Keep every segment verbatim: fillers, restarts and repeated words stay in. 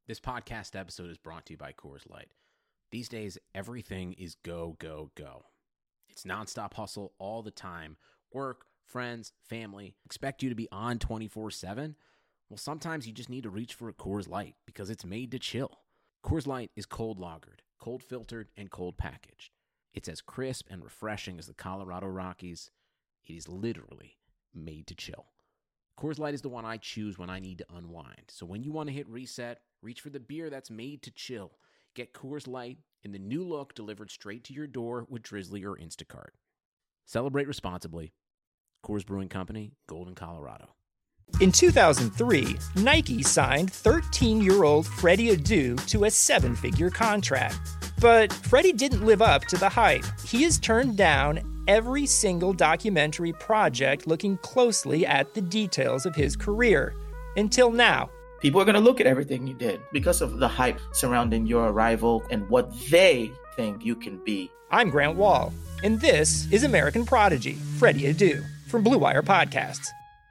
This podcast episode is brought to you by Coors Light. These days, everything is go, go, go. It's nonstop hustle all the time. Work, friends, family, expect you to be on twenty-four seven? Well, sometimes you just need to reach for a Coors Light because it's made to chill. Coors Light is cold lagered, cold filtered, and cold packaged. It's as crisp and refreshing as the Colorado Rockies. It is literally made to chill. Coors Light is the one I choose when I need to unwind. So when you want to hit reset, reach for the beer that's made to chill. Get Coors Light in the new look delivered straight to your door with Drizzly or Instacart. Celebrate responsibly. Coors Brewing Company, Golden, Colorado. In two thousand three, Nike signed thirteen-year-old Freddie Adu to a seven-figure contract. But Freddie didn't live up to the hype. He has turned down every single documentary project looking closely at the details of his career. Until now. People are going to look at everything you did because of the hype surrounding your arrival and what they think you can be. I'm Grant Wall, and this is American Prodigy, Freddie Adu, from Blue Wire Podcasts.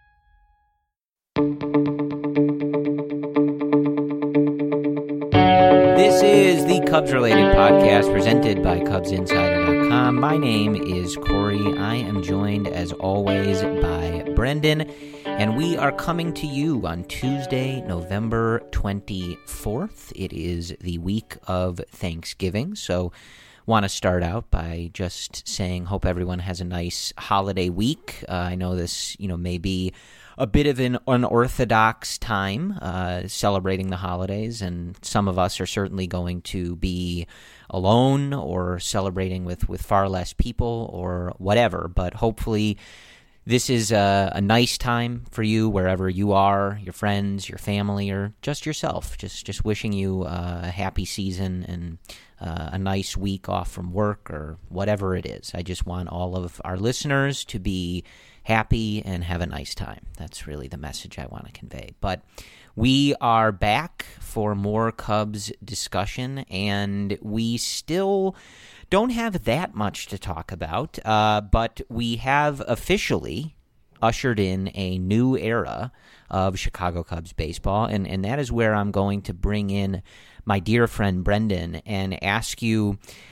This is the Cubs-related podcast presented by Cubs Insider dot com. My name is Corey. I am joined, as always, by Brendan, and we are coming to you on Tuesday, November twenty-fourth. It is the week of Thanksgiving, so want to start out by just saying hope everyone has a nice holiday week. Uh, I know this, you know, may be a bit of an unorthodox time uh, celebrating the holidays, and some of us are certainly going to be alone or celebrating with, with far less people or whatever, but hopefully this is a, a nice time for you wherever you are, your friends, your family, or just yourself. Just just wishing you uh, a happy season and uh, a nice week off from work or whatever it is. I just want all of our listeners to be happy and have a nice time. That's really the message I want to convey. But we are back for more Cubs discussion, and we still don't have that much to talk about, uh, but we have officially ushered in a new era of Chicago Cubs baseball, and, and that is where I'm going to bring in my dear friend Brendan and ask you,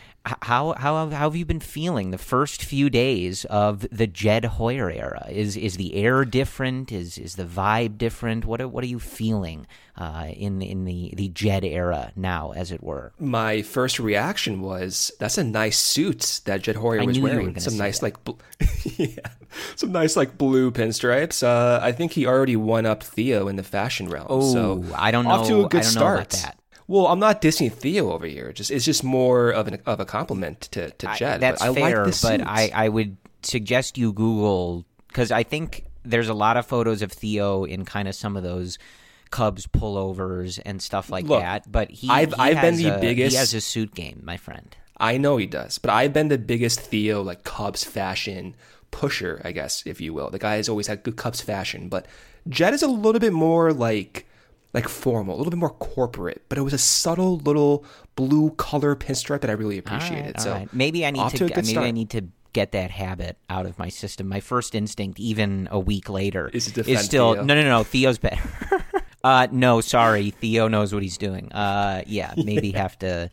How how how have you been feeling the first few days of the Jed Hoyer era? Is is the air different? Is is the vibe different? What are, what are you feeling uh, in in the, the Jed era now, as it were? My first reaction was, "That's a nice suit that Jed Hoyer I was knew wearing. You were some nice that. like, bl- yeah, some nice like blue pinstripes." Uh, I think he already won up Theo in the fashion realm. Oh, so I don't know. Off to a good I don't start. know about that. Well, I'm not dissing Theo over here. Just it's just more of an of a compliment to to Jed. I, that's but I fair, like this but suit. I, I would suggest you Google, because I think there's a lot of photos of Theo in kind of some of those Cubs pullovers and stuff like Look, that. But he, I've he I've has been the a, biggest. He has a suit game, my friend. I know he does, but I've been the biggest Theo like Cubs fashion pusher, I guess, if you will. The guy has always had good Cubs fashion, but Jed is a little bit more like. like formal, a little bit more corporate, but it was a subtle little blue color pinstripe that I really appreciated. All right, all so right. maybe I need to to maybe start. I need to get that habit out of my system. My first instinct, even a week later, Is to defend is still Theo. no, no, no. Theo's better. uh, no, sorry, Theo knows what he's doing. Uh, yeah, maybe have to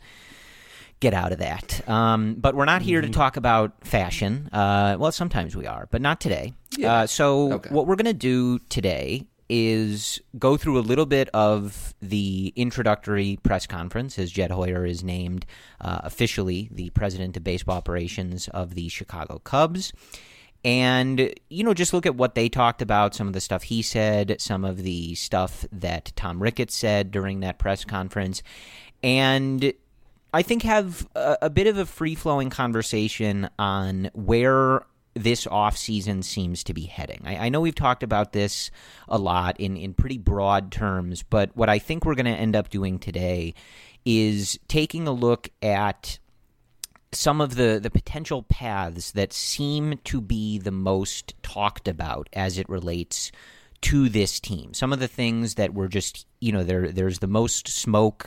get out of that. Um, but we're not here to talk about fashion. Uh, well, sometimes we are, but not today. Yeah. Uh, so Okay. what we're gonna do today is go through a little bit of the introductory press conference as Jed Hoyer is named uh, officially the president of baseball operations of the Chicago Cubs. And, you know, just look at what they talked about, some of the stuff he said, some of the stuff that Tom Ricketts said during that press conference. And I think have a, a bit of a free-flowing conversation on where this offseason seems to be heading. I, I know we've talked about this a lot in, in pretty broad terms, but what I think we're going to end up doing today is taking a look at some of the, the potential paths that seem to be the most talked about as it relates to this team. Some of the things that were just, you know, there there's the most smoke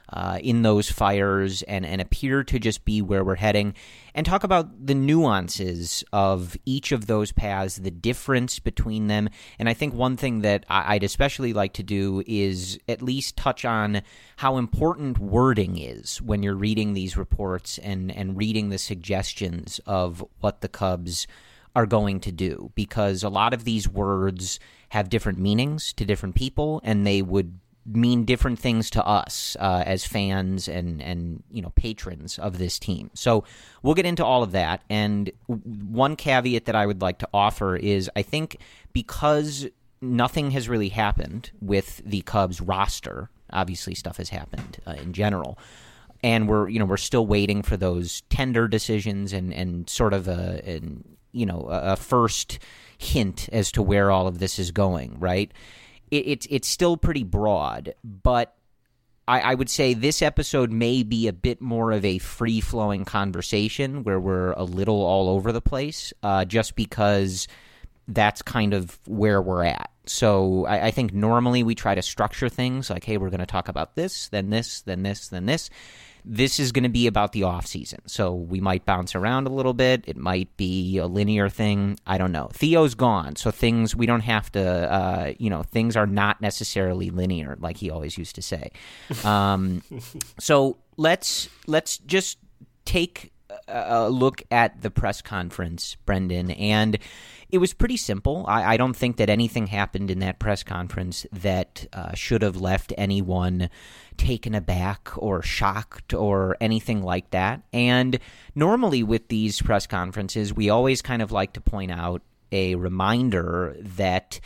uh, in those fires and, and appear to just be where we're heading, and talk about the nuances of each of those paths, the difference between them. And I think one thing that I'd especially like to do is at least touch on how important wording is when you're reading these reports and, and reading the suggestions of what the Cubs are going to do, because a lot of these words have different meanings to different people, and they would mean different things to us uh, as fans and, and you know patrons of this team. So we'll get into all of that. And one caveat that I would like to offer is I think because nothing has really happened with the Cubs roster, obviously stuff has happened uh, in general, and we're you know we're still waiting for those tender decisions and, and sort of a an, you know a first hint as to where all of this is going, right? It's it's still pretty broad, but I, I would say this episode may be a bit more of a free-flowing conversation where we're a little all over the place, uh, just because that's kind of where we're at. So I, I think normally we try to structure things like, hey, we're going to talk about this, then this, then this, then this. This is going to be about the offseason, so we might bounce around a little bit. It might be a linear thing. I don't know. Theo's gone, so things we don't have to, uh, you know, things are not necessarily linear, like he always used to say. Um, so let's let's just take a look at the press conference, Brendan, and it was pretty simple. I, I don't think that anything happened in that press conference that uh, should have left anyone taken aback or shocked or anything like that. And normally with these press conferences, we always kind of like to point out a reminder that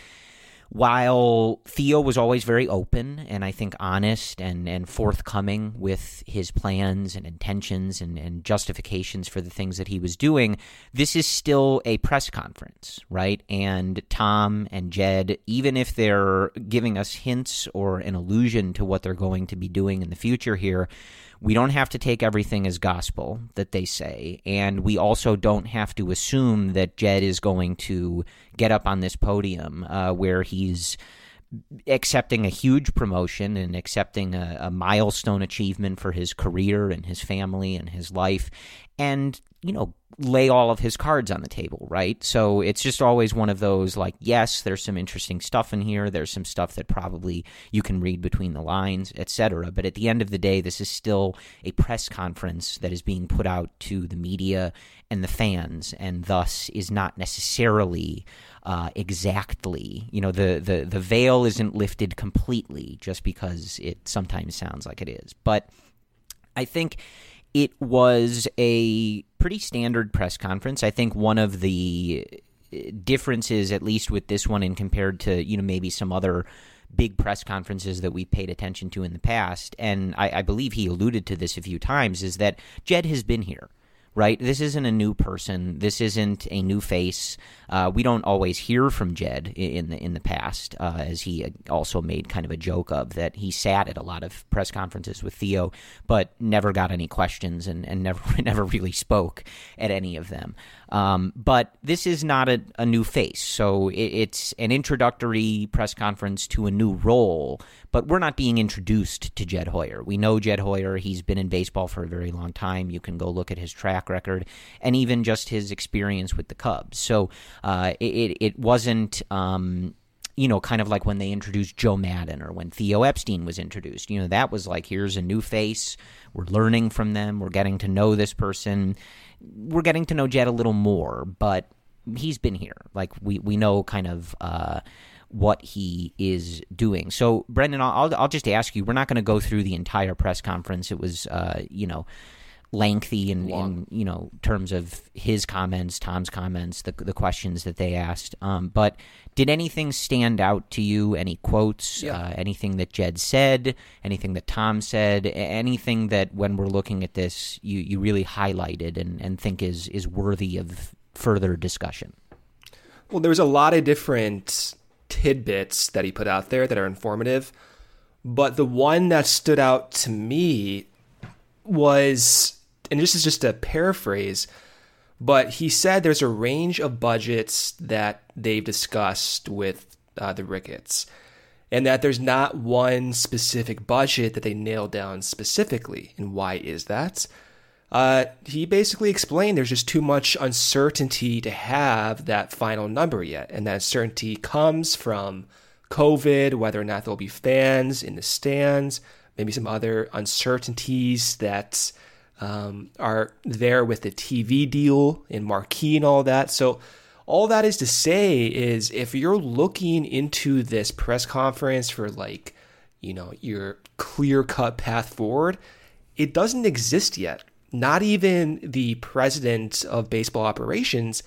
while Theo was always very open and I think honest and, and forthcoming with his plans and intentions and, and justifications for the things that he was doing, this is still a press conference, right? And Tom and Jed, even if they're giving us hints or an allusion to what they're going to be doing in the future here, we don't have to take everything as gospel that they say, and we also don't have to assume that Jed is going to get up on this podium uh, where he's accepting a huge promotion and accepting a, a milestone achievement for his career and his family and his life, and, you know, lay all of his cards on the table, right? So it's just always one of those, like, yes, there's some interesting stuff in here. There's some stuff that probably you can read between the lines, et cetera. But at the end of the day, this is still a press conference that is being put out to the media and the fans, and thus is not necessarily uh, exactly, you know, the, the, the veil isn't lifted completely just because it sometimes sounds like it is. But I think it was a pretty standard press conference. I think one of the differences, at least with this one and compared to, you know, maybe some other big press conferences that we've paid attention to in the past, and I, I believe he alluded to this a few times, is that Jed has been here. Right? This isn't a new person. This isn't a new face. Uh, we don't always hear from Jed in the in the past, uh, as he also made kind of a joke of that he sat at a lot of press conferences with Theo, but never got any questions and, and never never really spoke at any of them. Um, but this is not a, a new face, so it, it's an introductory press conference to a new role, but we're not being introduced to Jed Hoyer. We know Jed Hoyer. He's been in baseball for a very long time. You can go look at his track record and even just his experience with the Cubs. So uh, it, it wasn't, um, you know, kind of like when they introduced Joe Madden or when Theo Epstein was introduced. You know, that was like, here's a new face. We're learning from them. We're getting to know this person. We're getting to know Jed a little more, but he's been here. Like, we, we know kind of uh, what he is doing. So, Brendan, I'll, I'll just ask you, we're not going to go through the entire press conference. It was, uh, you know, lengthy in, in, you know, terms of his comments, Tom's comments, the the questions that they asked. Um, but did anything stand out to you? Any quotes? Yeah. Uh, anything that Jed said? Anything that Tom said? Anything that when we're looking at this, you, you really highlighted and, and think is is worthy of further discussion? Well, there was a lot of different tidbits that he put out there that are informative, but the one that stood out to me was, and this is just a paraphrase, but he said there's a range of budgets that they've discussed with uh, the Ricketts. and that there's not one specific budget that they nailed down specifically. And why is that? Uh, he basically explained there's just too much uncertainty to have that final number yet. And that uncertainty comes from COVID, whether or not there'll be fans in the stands, maybe some other uncertainties that um, are there with the T V deal and marquee and all that. So all that is to say is if you're looking into this press conference for like, you know, your clear-cut path forward, it doesn't exist yet. Not even the president of baseball operations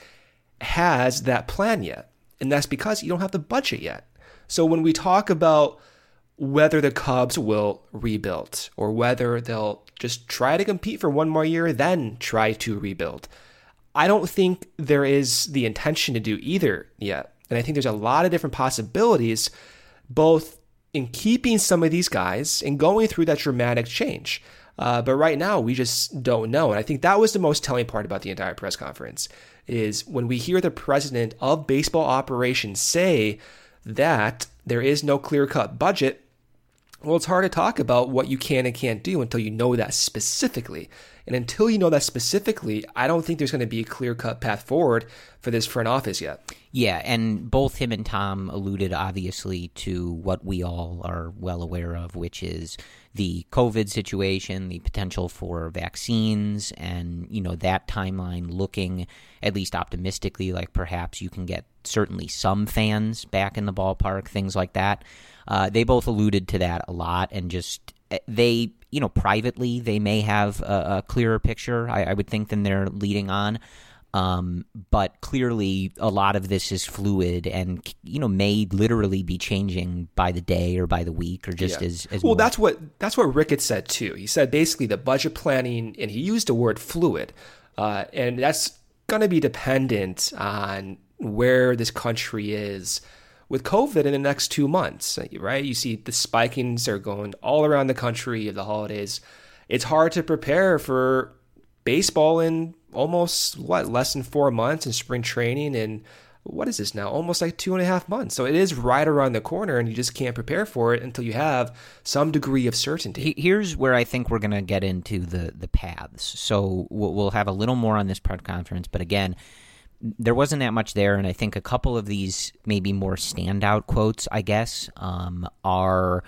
has that plan yet. And that's because you don't have the budget yet. So when we talk about whether the Cubs will rebuild or whether they'll just try to compete for one more year, then try to rebuild, I don't think there is the intention to do either yet. And I think there's a lot of different possibilities, both in keeping some of these guys and going through that dramatic change. Uh, but right now, we just don't know. And I think that was the most telling part about the entire press conference, is when we hear the president of baseball operations say that there is no clear-cut budget, well, it's hard to talk about what you can and can't do until you know that specifically. And until you know that specifically, I don't think there's going to be a clear-cut path forward for this front office yet. Yeah, and both him and Tom alluded, obviously, to what we all are well aware of, which is the COVID situation, the potential for vaccines, and, you know, that timeline looking at least optimistically like perhaps you can get certainly some fans back in the ballpark, things like that. Uh, they both alluded to that a lot, and just they, you know, privately they may have a, a clearer picture, I, I would think, than they're leading on. Um, but clearly a lot of this is fluid and, you know, may literally be changing by the day or by the week or just yeah. as, as well. More. That's what, that's what Ricketts said too. He said basically the budget planning, and he used the word fluid, uh, and that's going to be dependent on where this country is with COVID in the next two months, right? You see the spikings are going all around the country of the holidays. It's hard to prepare for baseball in almost, what, less than four months in spring training, and what is this now? Almost like two and a half months. So it is right around the corner, and you just can't prepare for it until you have some degree of certainty. Here's where I think we're going to get into the, the paths. So we'll have a little more on this press conference, but again, there wasn't that much there, and I think a couple of these maybe more standout quotes, I guess, um, are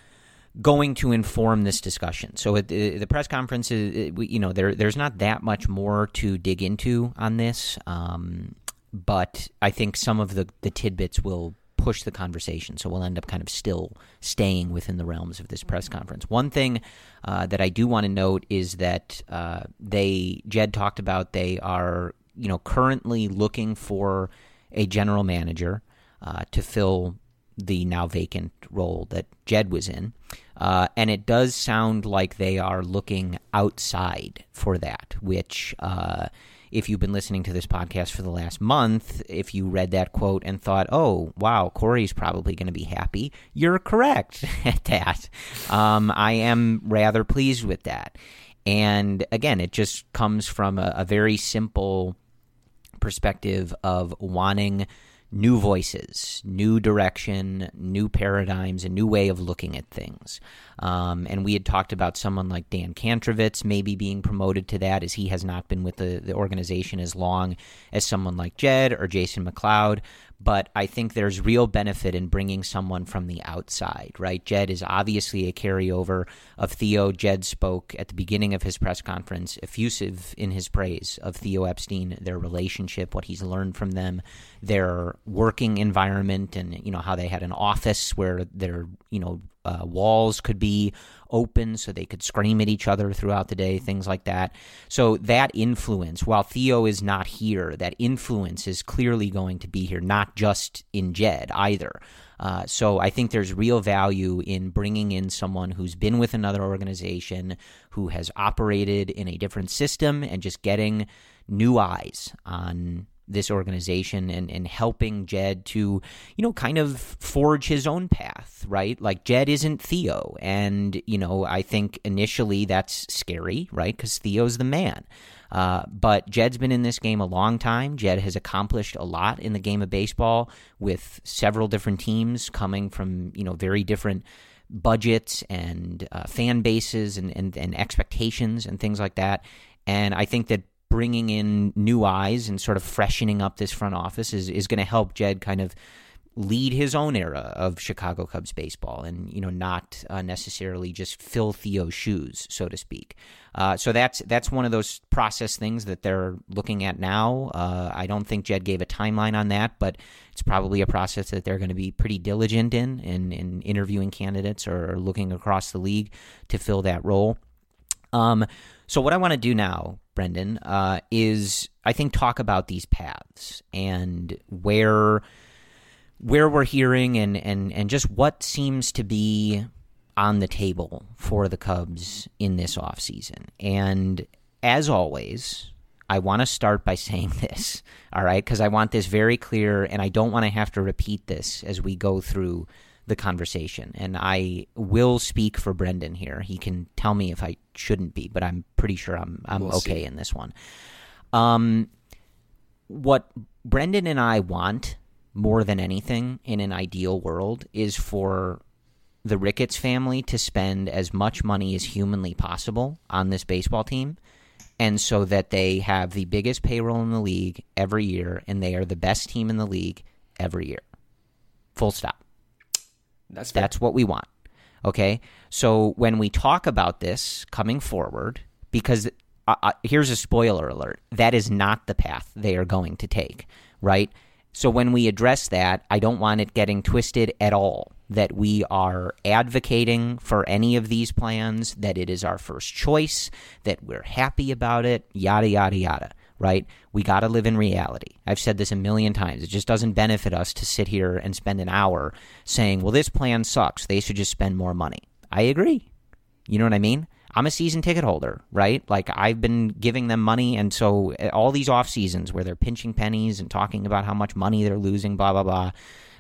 going to inform this discussion. So at the, the press conference, is, you know, there there's not that much more to dig into on this, um, but I think some of the, the tidbits will push the conversation, so we'll end up kind of still staying within the realms of this press conference. One thing uh, that I do want to note is that uh, they, Jed talked about they are, you know, currently looking for a general manager uh, to fill the now vacant role that Jed was in. Uh, and it does sound like they are looking outside for that, which uh, if you've been listening to this podcast for the last month, if you read that quote and thought, oh, wow, Corey's probably going to be happy, you're correct at that. Um, I am rather pleased with that. And again, it just comes from a, a very simple perspective of wanting new voices, new direction, new paradigms, a new way of looking at things. Um, and we had talked about someone like Dan Kantrovitz maybe being promoted to that, as he has not been with the, the organization as long as someone like Jed or Jason McLeod. But I think there's real benefit in bringing someone from the outside, right? Jed is obviously a carryover of Theo. Jed spoke at the beginning of his press conference, effusive in his praise of Theo Epstein, their relationship, what he's learned from them, their working environment, and, you know, how they had an office where their, you know, uh, walls could be open so they could scream at each other throughout the day, things like that. So that influence, while Theo is not here, that influence is clearly going to be here, not just in Jed either. Uh, so I think there's real value in bringing in someone who's been with another organization, who has operated in a different system, and just getting new eyes on this organization and, and helping Jed to, you know, kind of forge his own path, right? Like Jed isn't Theo. And, you know, I think initially that's scary, right? Because Theo's the man. Uh, but Jed's been in this game a long time. Jed has accomplished a lot in the game of baseball with several different teams coming from, you know, very different budgets and uh, fan bases and, and, and expectations and things like that. And I think that bringing in new eyes and sort of freshening up this front office is, is going to help Jed kind of lead his own era of Chicago Cubs baseball and, you know, not uh, necessarily just fill Theo's shoes, so to speak. Uh, so that's that's one of those process things that they're looking at now. Uh, I don't think Jed gave a timeline on that, but it's probably a process that they're going to be pretty diligent in, in, in interviewing candidates or looking across the league to fill that role. Um, so what I want to do now, Brendan, uh, is I think talk about these paths and where where we're hearing and, and, and just what seems to be on the table for the Cubs in this offseason. And as always, I want to start by saying this, all right, because I want this very clear, and I don't want to have to repeat this as we go through the conversation. And I will speak for Brendan here. He can tell me if I shouldn't be, but I'm pretty sure I'm I'm We'll okay see. in this one. Um, what Brendan and I want more than anything in an ideal world is for the Ricketts family to spend as much money as humanly possible on this baseball team, and so that they have the biggest payroll in the league every year, and they are the best team in the league every year. Full stop. That's fair. That's what we want. Okay? So when we talk about this coming forward, because uh, uh, here's a spoiler alert, that is not the path they are going to take, right? So when we address that, I don't want it getting twisted at all that we are advocating for any of these plans, that it is our first choice, that we're happy about it, yada, yada, yada, right? We got to live in reality. I've said this a million times. It just doesn't benefit us to sit here and spend an hour saying, well, this plan sucks. They should just spend more money. I agree. You know what I mean? I'm a season ticket holder, right? Like, I've been giving them money, and so all these off seasons where they're pinching pennies and talking about how much money they're losing, blah, blah, blah,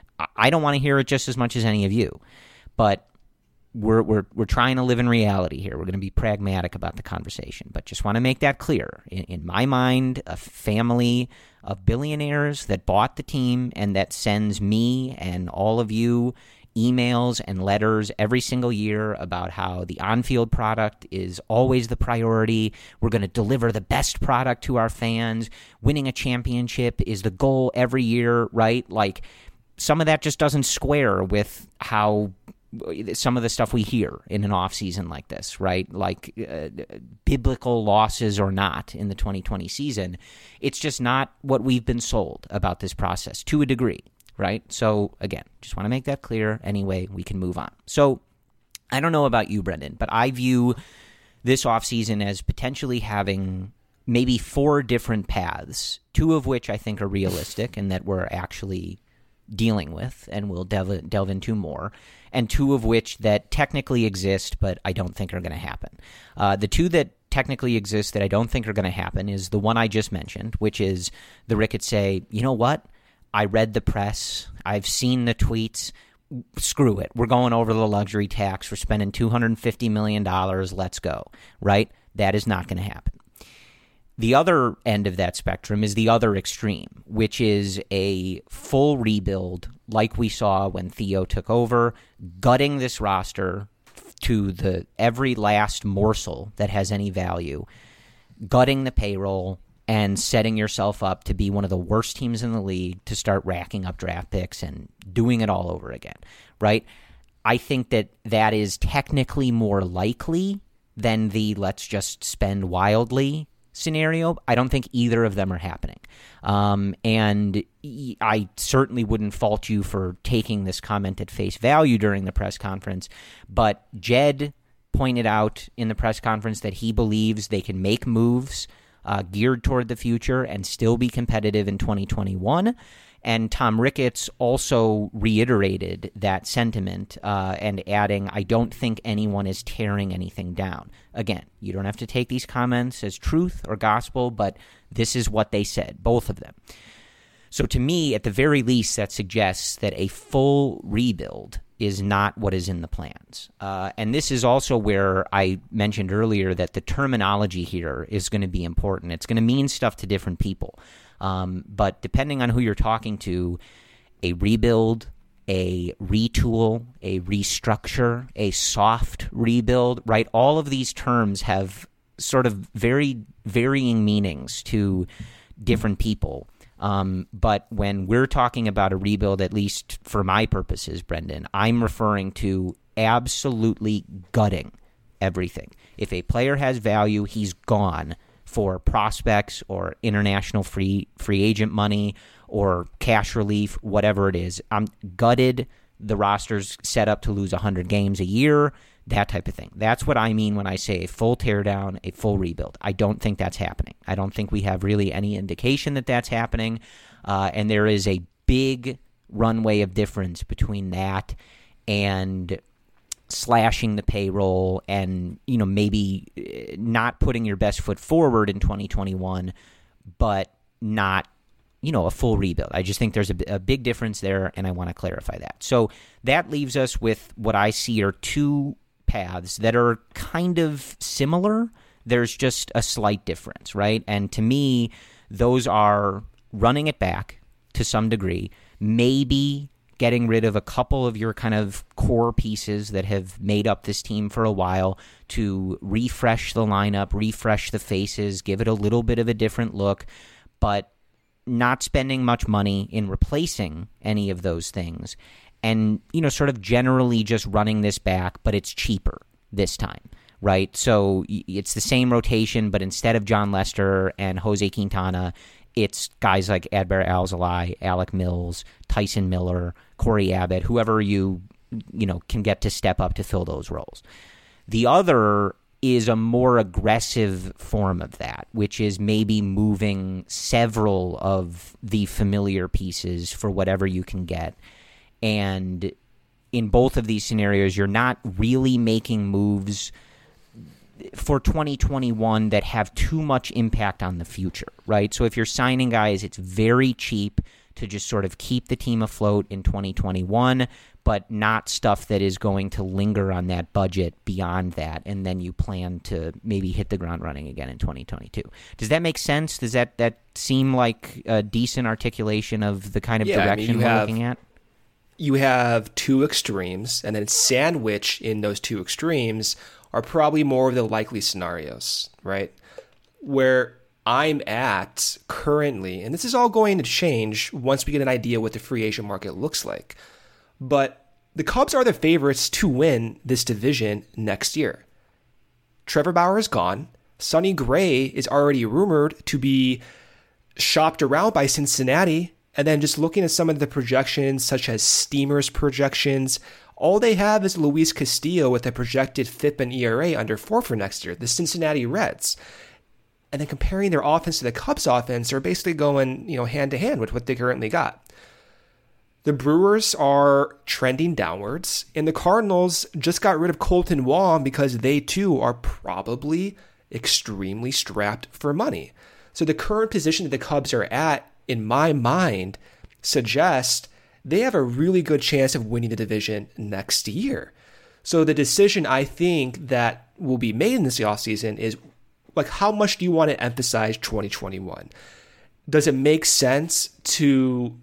I don't want to hear it just as much as any of you. But we're we're we're trying to live in reality here. We're going to be pragmatic about the conversation, but just want to make that clear. In, in my mind, a family of billionaires that bought the team and that sends me and all of you emails and letters every single year about how the on-field product is always the priority. We're going to deliver the best product to our fans. Winning a championship is the goal every year, right? Like, some of that just doesn't square with how some of the stuff we hear in an offseason like this, right? Like uh, biblical losses or not in the twenty twenty season. It's just not what we've been sold about this process to a degree. Right? So, again, just want to make that clear. Anyway, we can move on. So, I don't know about you, Brendan, but I view this offseason as potentially having maybe four different paths, two of which I think are realistic and that we're actually dealing with and we'll delve, delve into more, and two of which that technically exist but I don't think are going to happen. Uh, the two that technically exist that I don't think are going to happen is the one I just mentioned, which is the Ricketts say, you know what? I read the press. I've seen the tweets. Screw it. We're going over the luxury tax. We're spending two hundred fifty million dollars. Let's go. Right? That is not going to happen. The other end of that spectrum is the other extreme, which is a full rebuild like we saw when Theo took over, gutting this roster to the every last morsel that has any value, gutting the payroll, and setting yourself up to be one of the worst teams in the league to start racking up draft picks and doing it all over again, right? I think that that is technically more likely than the let's just spend wildly scenario. I don't think either of them are happening. Um, and I certainly wouldn't fault you for taking this comment at face value during the press conference, but Jed pointed out in the press conference that he believes they can make moves uh, geared toward the future and still be competitive in twenty twenty-one. And Tom Ricketts also reiterated that sentiment uh, and adding, I don't think anyone is tearing anything down. Again, you don't have to take these comments as truth or gospel, but this is what they said, both of them. So to me, at the very least, that suggests that a full rebuild is not what is in the plans. Uh, and this is also where I mentioned earlier that the terminology here is going to be important. It's going to mean stuff to different people. Um, but depending on who you're talking to, a rebuild, a retool, a restructure, a soft rebuild, right? All of these terms have sort of very varying meanings to different people. Um, but when we're talking about a rebuild, at least for my purposes, Brendan, I'm referring to absolutely gutting everything. If a player has value, he's gone for prospects or international free free agent money or cash relief, whatever it is. I'm gutted. The roster's set up to lose one hundred games a year, that type of thing. That's what I mean when I say a full teardown, a full rebuild. I don't think that's happening. I don't think we have really any indication that that's happening. Uh, and there is a big runway of difference between that and slashing the payroll and, you know, maybe not putting your best foot forward in twenty twenty-one, but not, you know, a full rebuild. I just think there's a, a big difference there, and I want to clarify that. So that leaves us with what I see are two paths that are kind of similar. There's just a slight difference, right? And to me, those are running it back to some degree, maybe getting rid of a couple of your kind of core pieces that have made up this team for a while to refresh the lineup, refresh the faces, give it a little bit of a different look, but not spending much money in replacing any of those things. And, you know, sort of generally just running this back, but it's cheaper this time, right? So it's the same rotation, but instead of John Lester and Jose Quintana, it's guys like Adbert Alzolay, Alec Mills, Tyson Miller, Corey Abbott, whoever you, you know, can get to step up to fill those roles. The other is a more aggressive form of that, which is maybe moving several of the familiar pieces for whatever you can get. And in both of these scenarios, you're not really making moves for twenty twenty-one that have too much impact on the future, right? So if you're signing guys, it's very cheap to just sort of keep the team afloat in twenty twenty-one, but not stuff that is going to linger on that budget beyond that, and then you plan to maybe hit the ground running again in twenty twenty-two. Does that make sense? Does that, that seem like a decent articulation of the kind of yeah, direction I mean, we're have, looking at? You have two extremes, and then sandwich in those two extremes are probably more of the likely scenarios, right? Where I'm at currently, and this is all going to change once we get an idea what the free agent market looks like, but the Cubs are the favorites to win this division next year. Trevor Bauer is gone. Sonny Gray is already rumored to be shopped around by Cincinnati. And then just looking at some of the projections, such as Steamer's projections, all they have is Luis Castillo with a projected F I P and E R A under four for next year, the Cincinnati Reds. And then comparing their offense to the Cubs' offense, they're basically going, you know, hand to hand with what they currently got. The Brewers are trending downwards, and the Cardinals just got rid of Colton Wong because they too are probably extremely strapped for money. So the current position that the Cubs are at, in my mind, suggests they have a really good chance of winning the division next year. So the decision I think that will be made in this offseason is, like, how much do you want to emphasize twenty twenty-one? Does it make sense to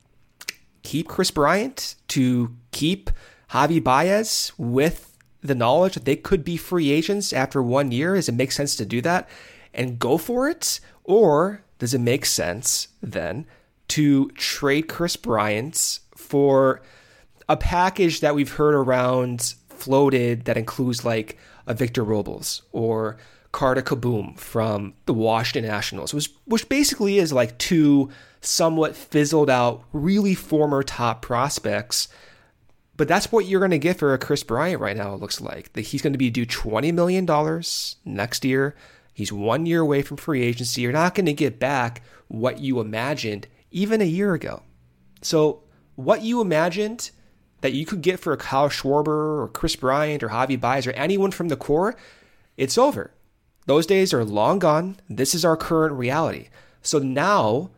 keep Chris Bryant, to keep Javi Baez with the knowledge that they could be free agents after one year? Does it make sense to do that and go for it? Or does it make sense then to trade Chris Bryant for a package that we've heard around floated that includes like a Victor Robles or Carter Kaboom from the Washington Nationals, which, which basically is like two somewhat fizzled out, really former top prospects. But that's what you're going to get for a Chris Bryant right now, it looks like. That he's going to be due twenty million dollars next year. He's one year away from free agency. You're not going to get back what you imagined even a year ago. So what you imagined that you could get for a Kyle Schwarber or Kris Bryant or Javi Baez or anyone from the core, it's over. Those days are long gone. This is our current reality. So now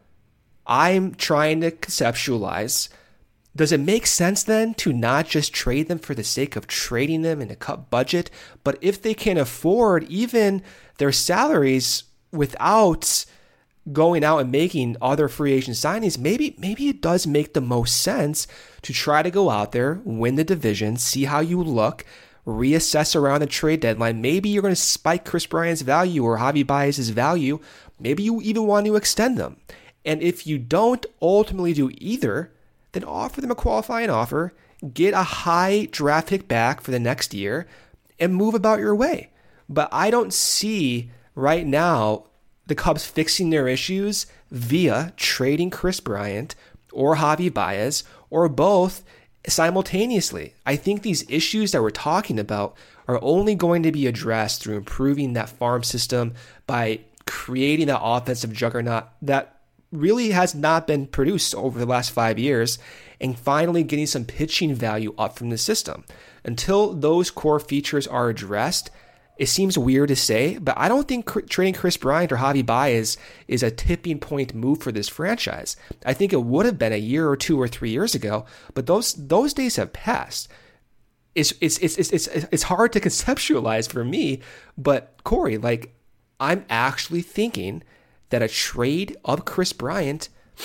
I'm trying to conceptualize, does it make sense then to not just trade them for the sake of trading them and to cut budget, but if they can afford even their salaries without going out and making other free agent signings, maybe maybe it does make the most sense to try to go out there, win the division, see how you look, reassess around the trade deadline. Maybe you're going to spike Kris Bryant's value or Javi Baez's value. Maybe you even want to extend them. And if you don't ultimately do either, then offer them a qualifying offer, get a high draft pick back for the next year, and move about your way. But I don't see right now the Cubs fixing their issues via trading Kris Bryant or Javi Baez or both simultaneously. I think these issues that we're talking about are only going to be addressed through improving that farm system by creating that offensive juggernaut that really has not been produced over the last five years and finally getting some pitching value up from the system. Until those core features are addressed, it seems weird to say, but I don't think cr- trading Kris Bryant or Javi Baez is a tipping point move for this franchise. I think it would have been a year or two or three years ago, but those those days have passed. It's it's it's it's it's, it's hard to conceptualize for me, but Corey, like, I'm actually thinking that a trade of Kris Bryant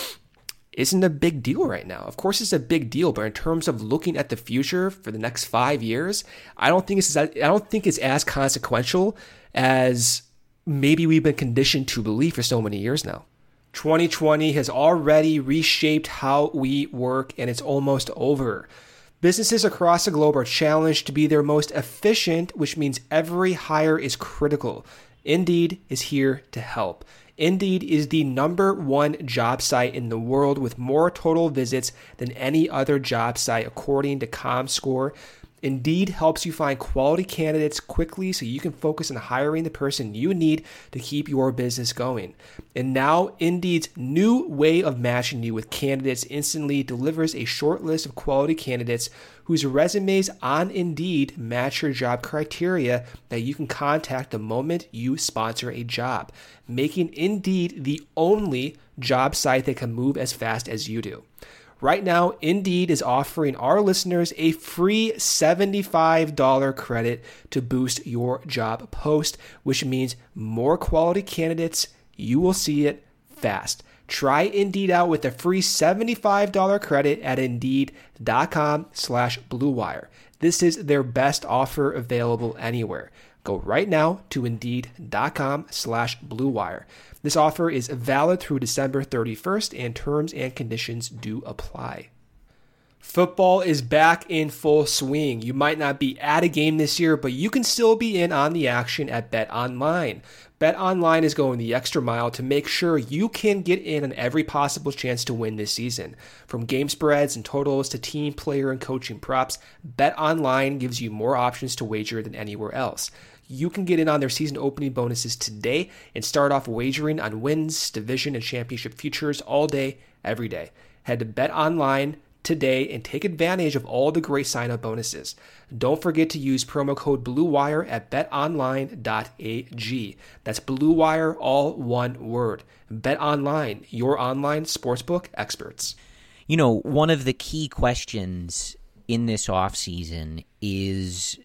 isn't a big deal right now. Of course, it's a big deal, but in terms of looking at the future for the next five years, I don't think it's as, I don't think it's as consequential as maybe we've been conditioned to believe for so many years now. twenty twenty has already reshaped how we work, and it's almost over. Businesses across the globe are challenged to be their most efficient, which means every hire is critical. Indeed is here to help. Indeed is the number one job site in the world with more total visits than any other job site, according to ComScore. Indeed helps you find quality candidates quickly so you can focus on hiring the person you need to keep your business going. And now Indeed's new way of matching you with candidates instantly delivers a short list of quality candidates whose resumes on Indeed match your job criteria that you can contact the moment you sponsor a job, making Indeed the only job site that can move as fast as you do. Right now, Indeed is offering our listeners a free seventy-five dollars credit to boost your job post, which means more quality candidates. You will see it fast. Try Indeed out with a free seventy-five dollars credit at Indeed.com slash Blue Wire. This is their best offer available anywhere. Go right now to Indeed.com slash Blue Wire. This offer is valid through December thirty-first, and terms and conditions do apply. Football is back in full swing. You might not be at a game this year, but you can still be in on the action at BetOnline. BetOnline is going the extra mile to make sure you can get in on every possible chance to win this season. From game spreads and totals to team, player, and coaching props, BetOnline gives you more options to wager than anywhere else. You can get in on their season opening bonuses today and start off wagering on wins, division, and championship futures all day, every day. Head to BetOnline today and take advantage of all the great sign-up bonuses. Don't forget to use promo code BlueWire at bet online dot a g. That's BlueWire, all one word. BetOnline, your online sportsbook experts. You know, one of the key questions in this offseason is,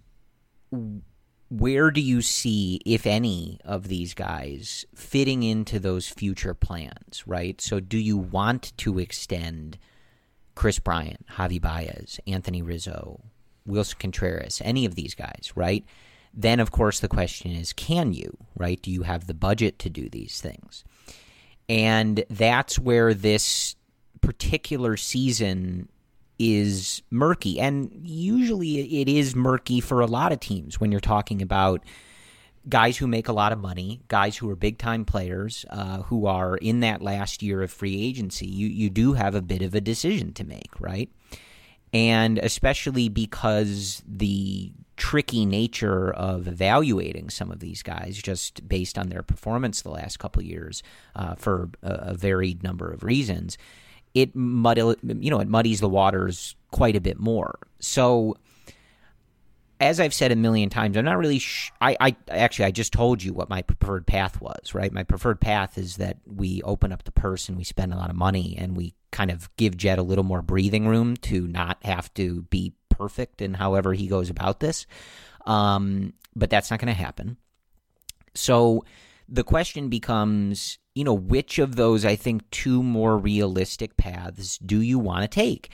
where do you see, if any, of these guys fitting into those future plans, right? So do you want to extend Kris Bryant, Javi Baez, Anthony Rizzo, Wilson Contreras, any of these guys, right? Then, of course, the question is, can you, right? Do you have the budget to do these things? And that's where this particular season is murky. And usually it is murky for a lot of teams when you're talking about guys who make a lot of money, guys who are big-time players, uh, who are in that last year of free agency. You you do have a bit of a decision to make, right? And especially because the tricky nature of evaluating some of these guys just based on their performance the last couple of years uh, for a, a varied number of reasons, it muddy, you know, it muddies the waters quite a bit more. So, as I've said a million times, I'm not really sh- I, I actually, I just told you what my preferred path was, right? My preferred path is that we open up the purse and we spend a lot of money and we kind of give Jed a little more breathing room to not have to be perfect in however he goes about this. Um, but that's not going to happen. So the question becomes, you know, which of those, I think, two more realistic paths do you want to take?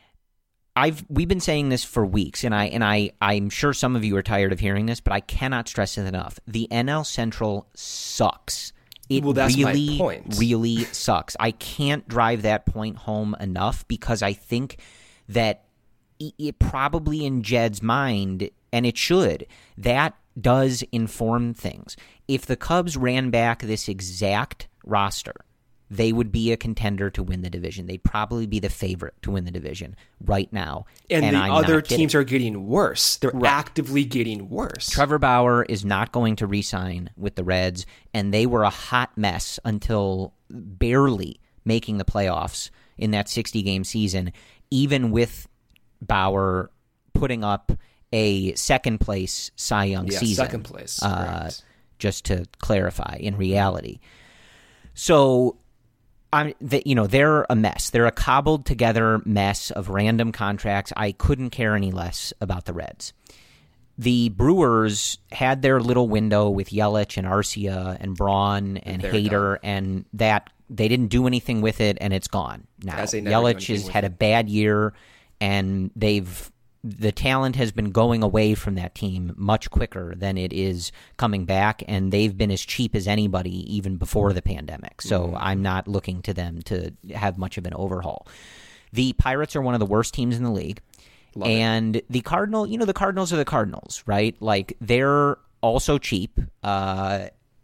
I've we've been saying this for weeks, and I and I I'm sure some of you are tired of hearing this, but I cannot stress it enough. The N L Central sucks. It well, that's really, my point. really sucks. I can't drive that point home enough because I think that it probably in Jed's mind, and it should, that does inform things. If the Cubs ran back this exact roster, they would be a contender to win the division. They'd probably be the favorite to win the division right now. And, and the I'm other not teams kidding. are getting worse. They're Right. actively getting worse. Trevor Bauer is not going to re-sign with the Reds, and they were a hot mess until barely making the playoffs in that sixty-game season, even with Bauer putting up a second-place Cy Young yeah, season. second place. Uh, right. just to clarify, in reality. So, I'm, the, you know, they're a mess. They're a cobbled together mess of random contracts. I couldn't care any less about the Reds. The Brewers had their little window with Yelich and Arcia and Braun and They're Hader, done. and that they didn't do anything with it, and it's gone now. As they never do Yelich anything has with had it. a bad year, and they've the talent has been going away from that team much quicker than it is coming back, and they've been as cheap as anybody even before the pandemic. So Mm-hmm. I'm not looking to them to have much of an overhaul. The Pirates are one of the worst teams in the league. Love it. And the Cardinal, you know, the Cardinals are the Cardinals, right? Like, they're also cheap, uh,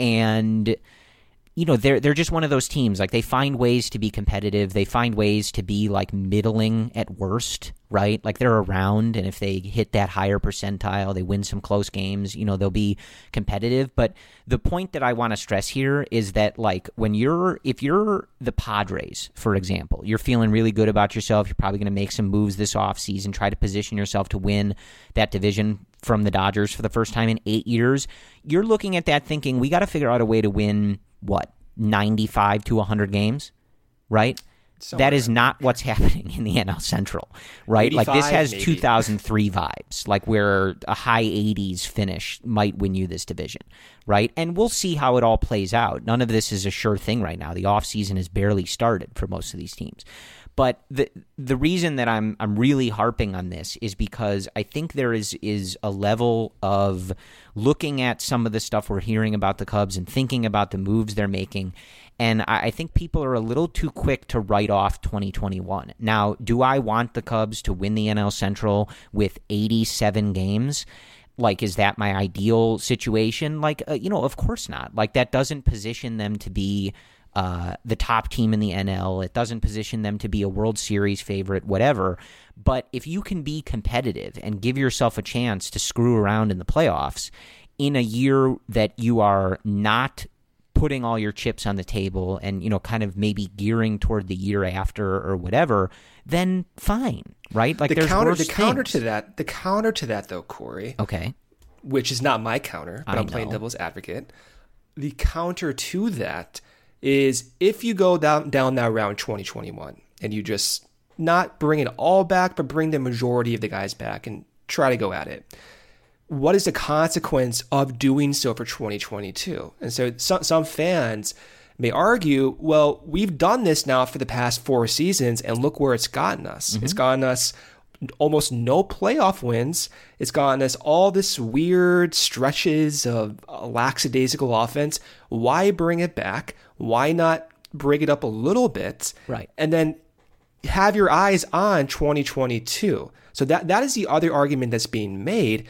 and you know, they're they're just one of those teams. Like, they find ways to be competitive. They find ways to be like middling at worst, right? Like, they're around, and if they hit that higher percentile, they win some close games, you know, they'll be competitive. But the point that I want to stress here is that, like, when you're if you're the Padres, for example, you're feeling really good about yourself, you're probably going to make some moves this offseason, try to position yourself to win that division from the Dodgers for the first time in eight years. You're looking at that thinking, we got to figure out a way to win, what, ninety-five to one hundred games, right? Somewhere. That is not what's happening in the N L Central, right? Like, this eighty-five, has maybe. two thousand three vibes, like where a high eighties finish might win you this division, right? And we'll see how it all plays out. None of this is a sure thing right now. The offseason has barely started for most of these teams. But the the reason that I'm I'm really harping on this is because I think there is is a level of looking at some of the stuff we're hearing about the Cubs and thinking about the moves they're making, and I, I think people are a little too quick to write off twenty twenty-one. Now, do I want the Cubs to win the N L Central with eighty-seven games? Like, is that my ideal situation? Like, uh, you know, of course not. Like, that doesn't position them to be Uh, the top team in the N L. It doesn't position them to be a World Series favorite, whatever. But if you can be competitive and give yourself a chance to screw around in the playoffs in a year that you are not putting all your chips on the table and, you know, kind of maybe gearing toward the year after or whatever, then fine, right? Like, the there's counter, worse the counter things. to that, the counter to that, though, Corey, Okay. which is not my counter, but I I'm playing know. devil's advocate. The counter to that is if you go down down that round twenty twenty-one and you just not bring it all back, but bring the majority of the guys back and try to go at it. What is the consequence of doing so for twenty twenty-two? And so some, some fans may argue, well, we've done this now for the past four seasons, and look where it's gotten us. Mm-hmm. It's gotten us almost no playoff wins. It's gotten us all this weird stretches of lackadaisical offense. Why bring it back? Why not bring it up a little bit? Right. And then have your eyes on twenty twenty-two. So that that is the other argument that's being made.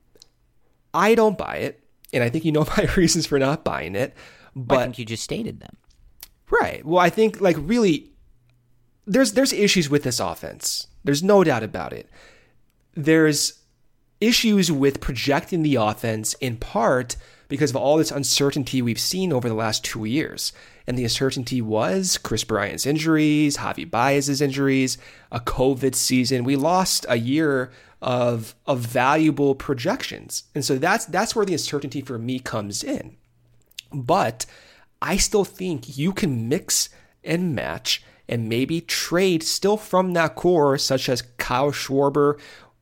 I don't buy it, and I think you know my reasons for not buying it. But I think you just stated them. Right. Well, I think, like, really, there's there's issues with this offense. There's no doubt about it. There's issues with projecting the offense in part because of all this uncertainty we've seen over the last two years. And the uncertainty was Chris Bryant's injuries, Javi Baez's injuries, a COVID season. We lost a year of of valuable projections. And so that's that's where the uncertainty for me comes in. But I still think you can mix and match and maybe trade still from that core, such as Kyle Schwarber,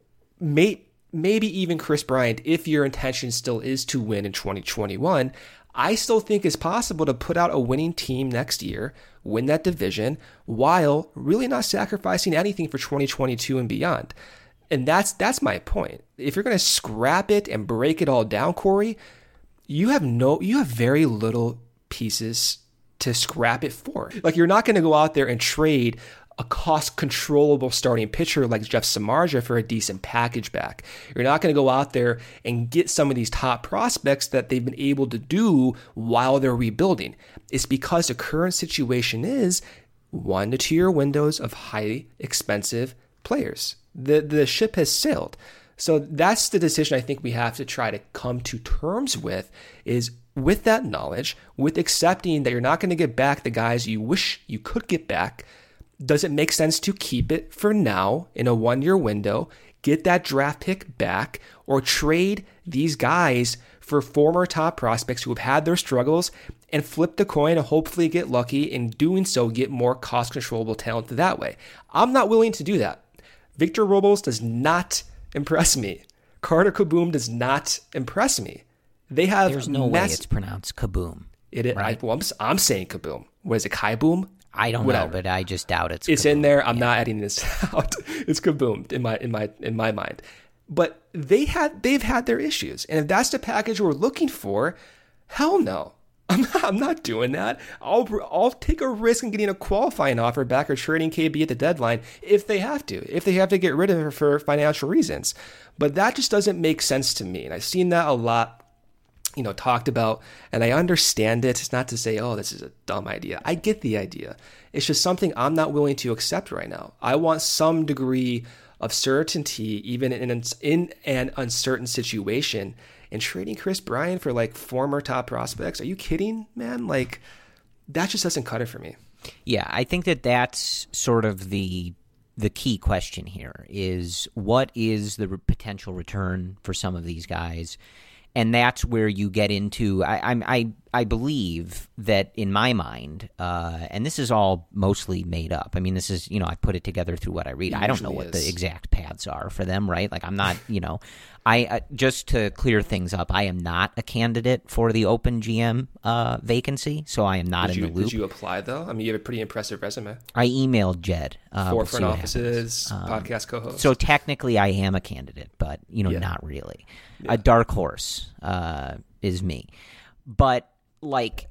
may, maybe even Chris Bryant, if your intention still is to win in twenty twenty-one. I still think it's possible to put out a winning team next year, win that division, while really not sacrificing anything for twenty twenty-two and beyond. And that's that's my point. If you're going to scrap it and break it all down, Corey, you have no, you have very little pieces to scrap it for. Like, you're not going to go out there and trade a cost controllable starting pitcher like Jeff Samardzija for a decent package back. You're not going to go out there and get some of these top prospects that they've been able to do while they're rebuilding. It's because the current situation is one to two year windows of highly expensive players. The the ship has sailed. So that's the decision I think we have to try to come to terms with, is with that knowledge, with accepting that you're not going to get back the guys you wish you could get back. Does it make sense to keep it for now in a one-year window, get that draft pick back, or trade these guys for former top prospects who have had their struggles and flip the coin and hopefully get lucky, in doing so get more cost-controllable talent that way? I'm not willing to do that. Victor Robles does not impress me. Carter Kaboom does not impress me. They have There's no mass- way it's pronounced Kaboom. It is, right? I, well, I'm, I'm saying Kaboom. What is it, Kai Boom? I don't Whatever. know, but I just doubt it's It's Kaboom. in there. I'm Yeah. not adding this out. It's Kaboom in my in my in my mind. But they had they've had their issues, and if that's the package we're looking for, hell no. I'm not, I'm not doing that. I'll I'll take a risk in getting a qualifying offer back or trading K B at the deadline if they have to, if they have to get rid of her for financial reasons. But that just doesn't make sense to me, and I've seen that a lot, you know, talked about, and I understand it. It's not to say, oh, this is a dumb idea. I get the idea. It's just something I'm not willing to accept right now. I want some degree of certainty, even in an, in an uncertain situation. And trading Chris Bryant for like former top prospects, are you kidding, man? Like, that just doesn't cut it for me. Yeah, I think that that's sort of the the key question here, is what is the re- potential return for some of these guys? And that's where you get into, I I I believe that in my mind, uh, and this is all mostly made up. I mean, this is, you know, I put it together through what I read. It I don't know usually what is. the exact paths are for them, right? Like, I'm not, you know, I uh, just to clear things up, I am not a candidate for the open G M uh, vacancy, so I am not Did in you, the loop. did you apply, though? I mean, you have a pretty impressive resume. I emailed Jed. Uh, Four we'll see front what offices, happens. Um, podcast co-host. So technically, I am a candidate, but you know, Yeah. not really. Yeah. A dark horse uh, is me, but like,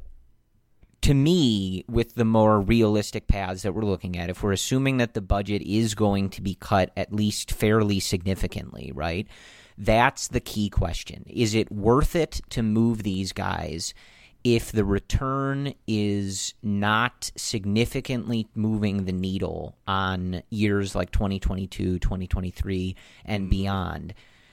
to me, with the more realistic paths that we're looking at, if we're assuming that the budget is going to be cut at least fairly significantly, right? That's the key question. Is it worth it to move these guys if the return is not significantly moving the needle on years like twenty twenty-two, twenty twenty-three, and beyond?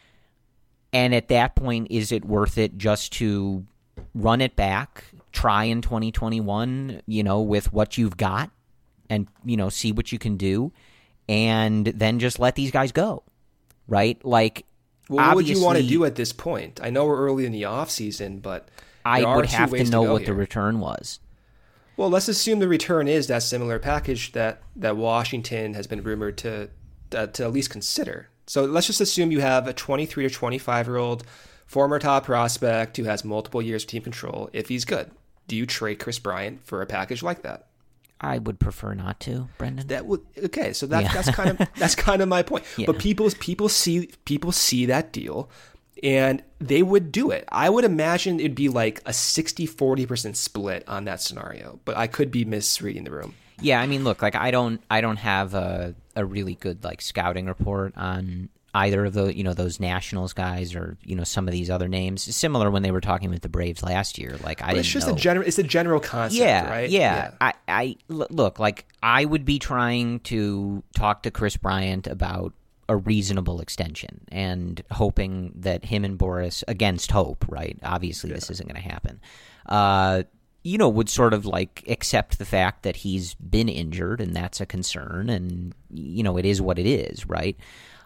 And at that point, is it worth it just to run it back, try in twenty twenty-one, you know, with what you've got, and, you know, see what you can do, and then just let these guys go, right? Like, well, what would you want to obviously, do at this point? I know we're early in the offseason, but I there are would two have to ways know go what the here. return was. Well, let's assume the return is that similar package that, that Washington has been rumored to uh, to at least consider. So let's just assume you have a twenty-three to twenty-five-year-old former top prospect who has multiple years of team control. If he's good, do you trade Chris Bryant for a package like that? I would prefer not to, Brendan. That would okay. So that's Yeah. that's kind of that's kind of my point. Yeah. But people people see people see that deal, and they would do it. I would imagine it'd be like a sixty forty percent split on that scenario, but I could be misreading the room. Yeah, I mean, look, like I don't, I don't have a a really good like scouting report on either of the, you know, those Nationals guys or, you know, some of these other names. Similar when they were talking with the Braves last year. Like I But didn't it's just know. a general. It's a general concept, yeah, right? yeah, I, I l- look like I would be trying to talk to Chris Bryant about a reasonable extension and hoping that him and Boris, against hope, right? Obviously, yeah. this isn't going to happen. Uh, you know, would sort of like accept the fact that he's been injured and that's a concern, and you know, it is what it is, right?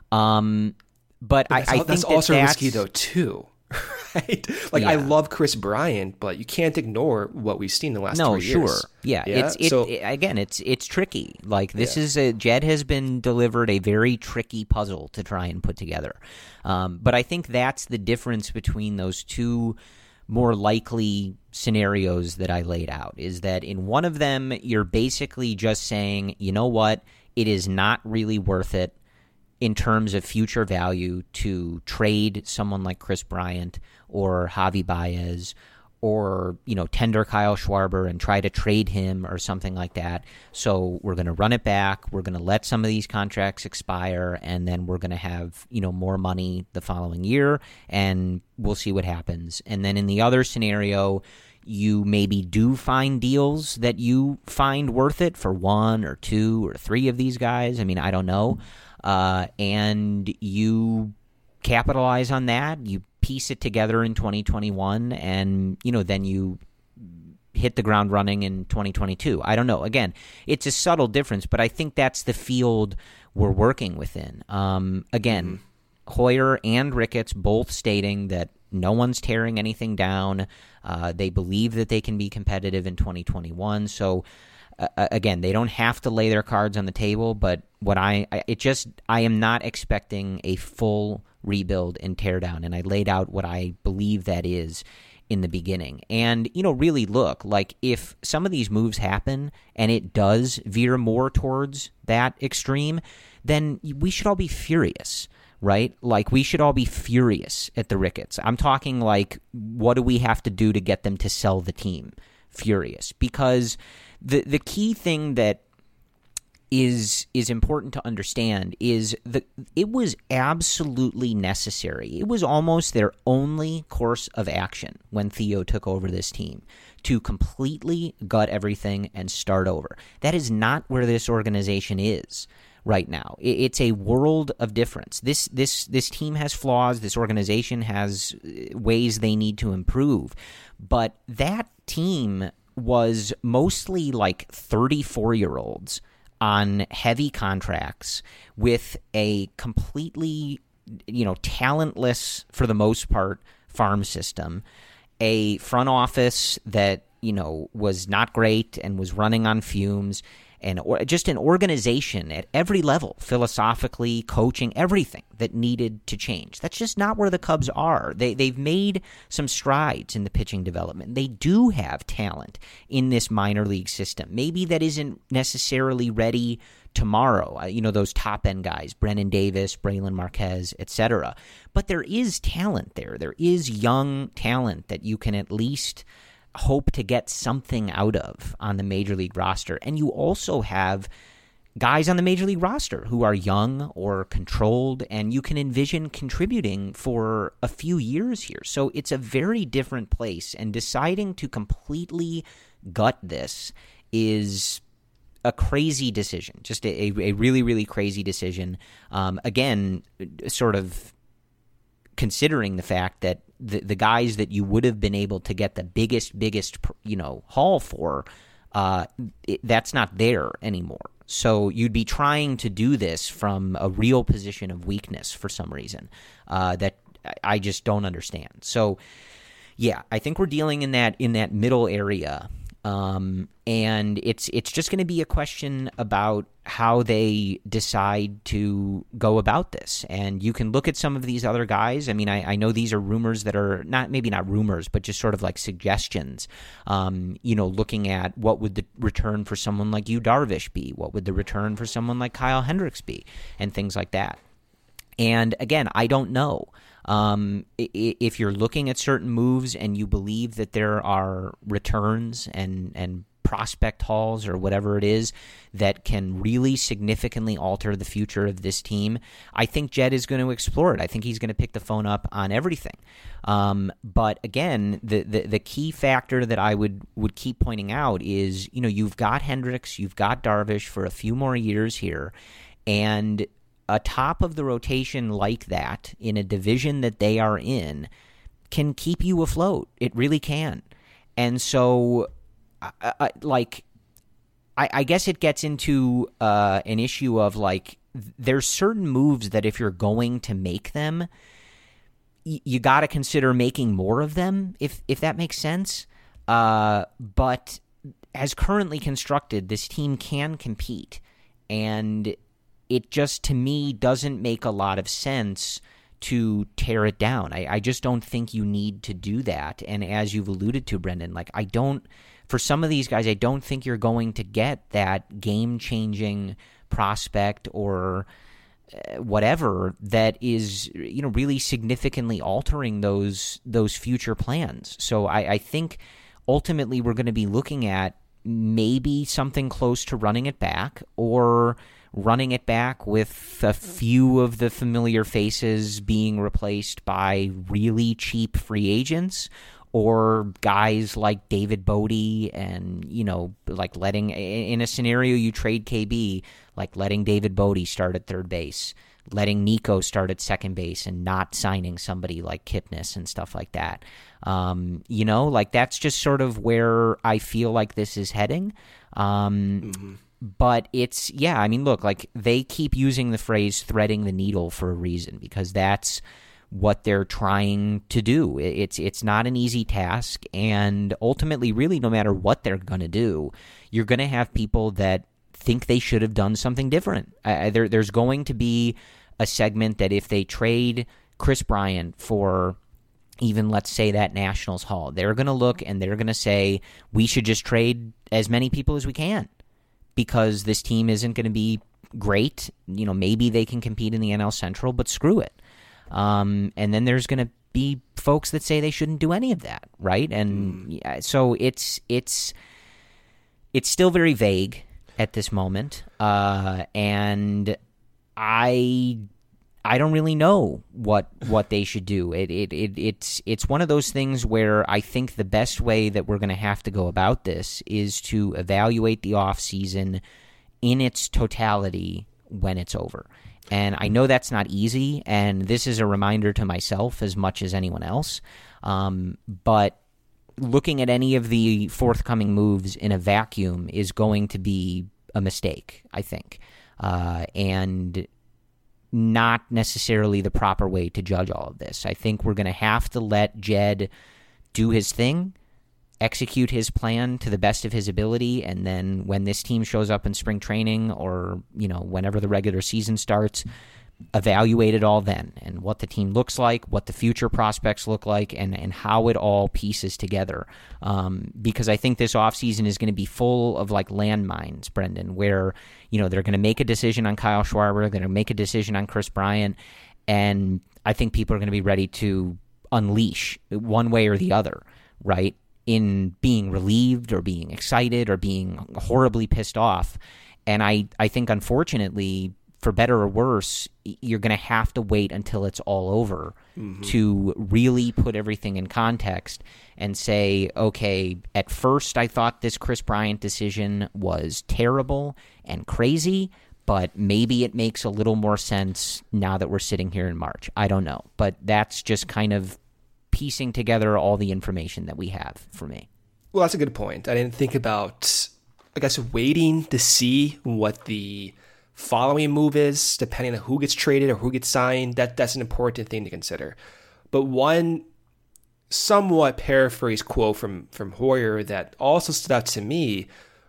Um, but, but I, I think that's that also that's, risky though too. Right? Like, yeah. I love Chris Bryant, but you can't ignore what we've seen in the last no, three years. No, sure. Yeah. yeah? It's, it, so, it, again, it's it's tricky. Like, this yeah. is a, Jed has been delivered a very tricky puzzle to try and put together. Um, but I think that's the difference between those two more likely scenarios that I laid out, is that in one of them, you're basically just saying, you know what, it is not really worth it in terms of future value to trade someone like Chris Bryant or Javi Baez, or, you know, tender Kyle Schwarber and try to trade him or something like that. So we're going to run it back. We're going to let some of these contracts expire, and then we're going to have, you know, more money the following year, and we'll see what happens. And then in the other scenario, you maybe do find deals that you find worth it for one or two or three of these guys. I mean, I don't know. Uh, and you capitalize on that. You piece it together in twenty twenty-one, and you know, then you hit the ground running in twenty twenty-two. I don't know. Again, it's a subtle difference, but I think that's the field we're working within. Um, again, mm-hmm. Hoyer and Ricketts both stating that no one's tearing anything down. Uh, they believe that they can be competitive in twenty twenty-one. So uh, again, they don't have to lay their cards on the table, but what I, I it just I am not expecting a full rebuild and teardown, and I laid out what I believe that is in the beginning. And, you know, really look, like, if some of these moves happen and it does veer more towards that extreme, then we should all be furious, right? Like, we should all be furious at the Ricketts. I'm talking like, what do we have to do to get them to sell the team? Furious. Because the the key thing that is is important to understand is that it was absolutely necessary. It was almost their only course of action when Theo took over this team, to completely gut everything and start over. That is not where this organization is right now. It's a world of difference. This this this team has flaws. This organization has ways they need to improve. But that team was mostly like thirty-four-year-olds on heavy contracts with a completely, you know, talentless, for the most part, farm system, a front office that, you know, was not great and was running on fumes, and or, just an organization at every level, philosophically, coaching, everything that needed to change. That's just not where the Cubs are. They, they've made some strides in the pitching development. They do have talent in this minor league system. Maybe that isn't necessarily ready tomorrow. Uh, you know, those top-end guys, Brennan Davis, Braylon Marquez, et cetera. But there is talent there. There is young talent that you can at least hope to get something out of on the major league roster. And you also have guys on the major league roster who are young or controlled, and you can envision contributing for a few years here. So it's a very different place, and deciding to completely gut this is a crazy decision, just a, a really, really crazy decision. Um, again, sort of considering the fact that the the guys that you would have been able to get the biggest, biggest, you know, haul for, uh, it, that's not there anymore. So you'd be trying to do this from a real position of weakness for some reason uh, that I just don't understand. So, yeah, I think we're dealing in that in that middle area. Um, and it's it's just going to be a question about how they decide to go about this. And you can look at some of these other guys. I mean, I, I know these are rumors that are not maybe not rumors, but just sort of like suggestions. Um, you know, looking at what would the return for someone like Yu Darvish be? What would the return for someone like Kyle Hendricks be? And things like that. And again, I don't know. Um, if you're looking at certain moves and you believe that there are returns and, and prospect hauls or whatever it is that can really significantly alter the future of this team, I think Jed is going to explore it. I think he's going to pick the phone up on everything. Um, but again, the, the, the key factor that I would, would keep pointing out is, you know, you've got Hendricks, you've got Darvish for a few more years here, and a top of the rotation like that in a division that they are in can keep you afloat. It really can. And so, I, I, like, I, I guess it gets into uh, an issue of, like, there's certain moves that if you're going to make them, y- you got to consider making more of them, if if that makes sense. Uh, but as currently constructed, this team can compete. And it just, to me, doesn't make a lot of sense to tear it down. I, I just don't think you need to do that. And as you've alluded to, Brendan, like I don't, for some of these guys, I don't think you're going to get that game-changing prospect or uh, whatever that is, you know, really significantly altering those those future plans. So I, I think ultimately we're going to be looking at maybe something close to running it back, or running it back with a few of the familiar faces being replaced by really cheap free agents, or guys like David Bodie, and, you know, like letting, in a scenario you trade K B, like letting David Bodie start at third base, letting Nico start at second base, and not signing somebody like Kipnis and stuff like that. Um, you know, like that's just sort of where I feel like this is heading. Um, mm-hmm. But it's, yeah, I mean, look, like they keep using the phrase threading the needle for a reason, because that's what they're trying to do. It's it's not an easy task, and ultimately, really, no matter what they're going to do, you're going to have people that think they should have done something different. Uh, there, there's going to be a segment that if they trade Kris Bryant for even, let's say, that Nationals haul, they're going to look and they're going to say, we should just trade as many people as we can, because this team isn't going to be great. You know, maybe they can compete in the N L Central, but screw it. Um, and then there's going to be folks that say they shouldn't do any of that, right? And mm. yeah, so it's it's it's still very vague at this moment, uh, and I I don't really know what what they should do. It it it it's it's one of those things where I think the best way that we're going to have to go about this is to evaluate the offseason in its totality when it's over. And I know that's not easy, and this is a reminder to myself as much as anyone else. Um, but looking at any of the forthcoming moves in a vacuum is going to be a mistake, I think, uh, and not necessarily the proper way to judge all of this. I think we're going to have to let Jed do his thing, execute his plan to the best of his ability, and then when this team shows up in spring training, or, you know, whenever the regular season starts, evaluate it all then, and what the team looks like, what the future prospects look like, and, and how it all pieces together. Um, because I think this offseason is going to be full of like landmines, Brendan, where, you know, they're going to make a decision on Kyle Schwarber, they're going to make a decision on Kris Bryant, and I think people are going to be ready to unleash one way or the other, right? In being relieved or being excited or being horribly pissed off. And I, I think, unfortunately, for better or worse, you're going to have to wait until it's all over mm-hmm. to really put everything in context and say, okay, at first I thought this Kris Bryant decision was terrible and crazy, but maybe it makes a little more sense now that we're sitting here in March. I don't know. But that's just kind of piecing together all the information that we have for me. Well, that's a good point. I didn't think about, I guess, waiting to see what the following move is, depending on who gets traded or who gets signed. That that's an important thing to consider. But one somewhat paraphrased quote from, from Hoyer that also stood out to me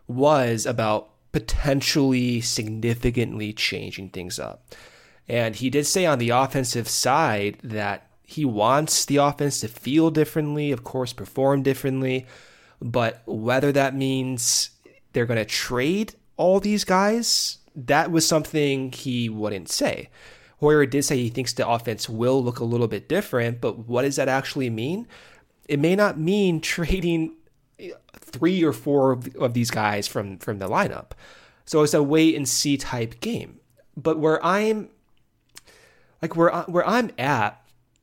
was about potentially significantly changing things up. And he did say on the offensive side that he wants the offense to feel differently, of course, perform differently, but whether that means they're going to trade all these guys, that was something he wouldn't say. Hoyer did say he thinks the offense will look a little bit different, but what does that actually mean? It may not mean trading three or four of these guys from, from the lineup. So it's a wait and see type game. But where I'm like where I, where I'm at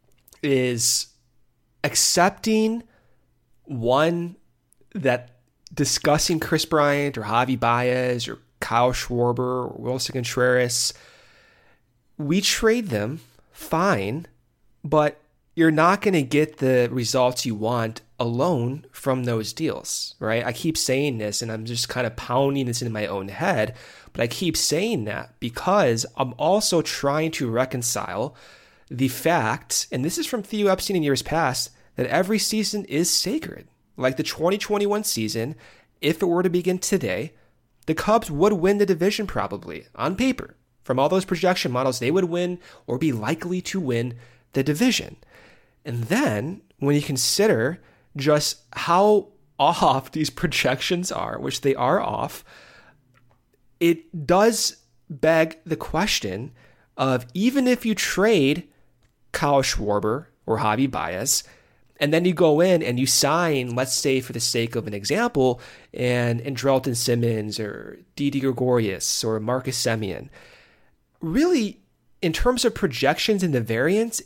is accepting, one, that discussing Kris Bryant or Javi Baez or Kyle Schwarber or Wilson Contreras we trade them, fine, but you're not going to get the results you want alone from those deals, right? I keep saying this, and I'm just kind of pounding this into my own head, but I keep saying that because I'm also trying to reconcile the fact, and this is from Theo Epstein in years past, that every season is sacred. Like the twenty twenty-one season, if it were to begin today, the Cubs would win the division probably, on paper. From all those projection models, they would win or be likely to win the division. And then when you consider just how off these projections are, which they are off, it does beg the question of, even if you trade Kyle Schwarber or Javi Baez, and then you go in and you sign, let's say for the sake of an example, and Andrelton Simmons or Didi Gregorius or Marcus Semien, really, in terms of projections and the variance,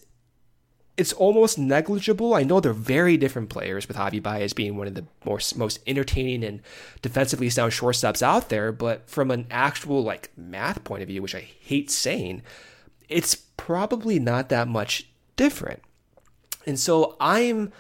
it's almost negligible. I know they're very different players, with Javi Baez being one of the most, most entertaining and defensively sound shortstops out there, but from an actual like math point of view, which I hate saying, it's probably not that much different. And so I'm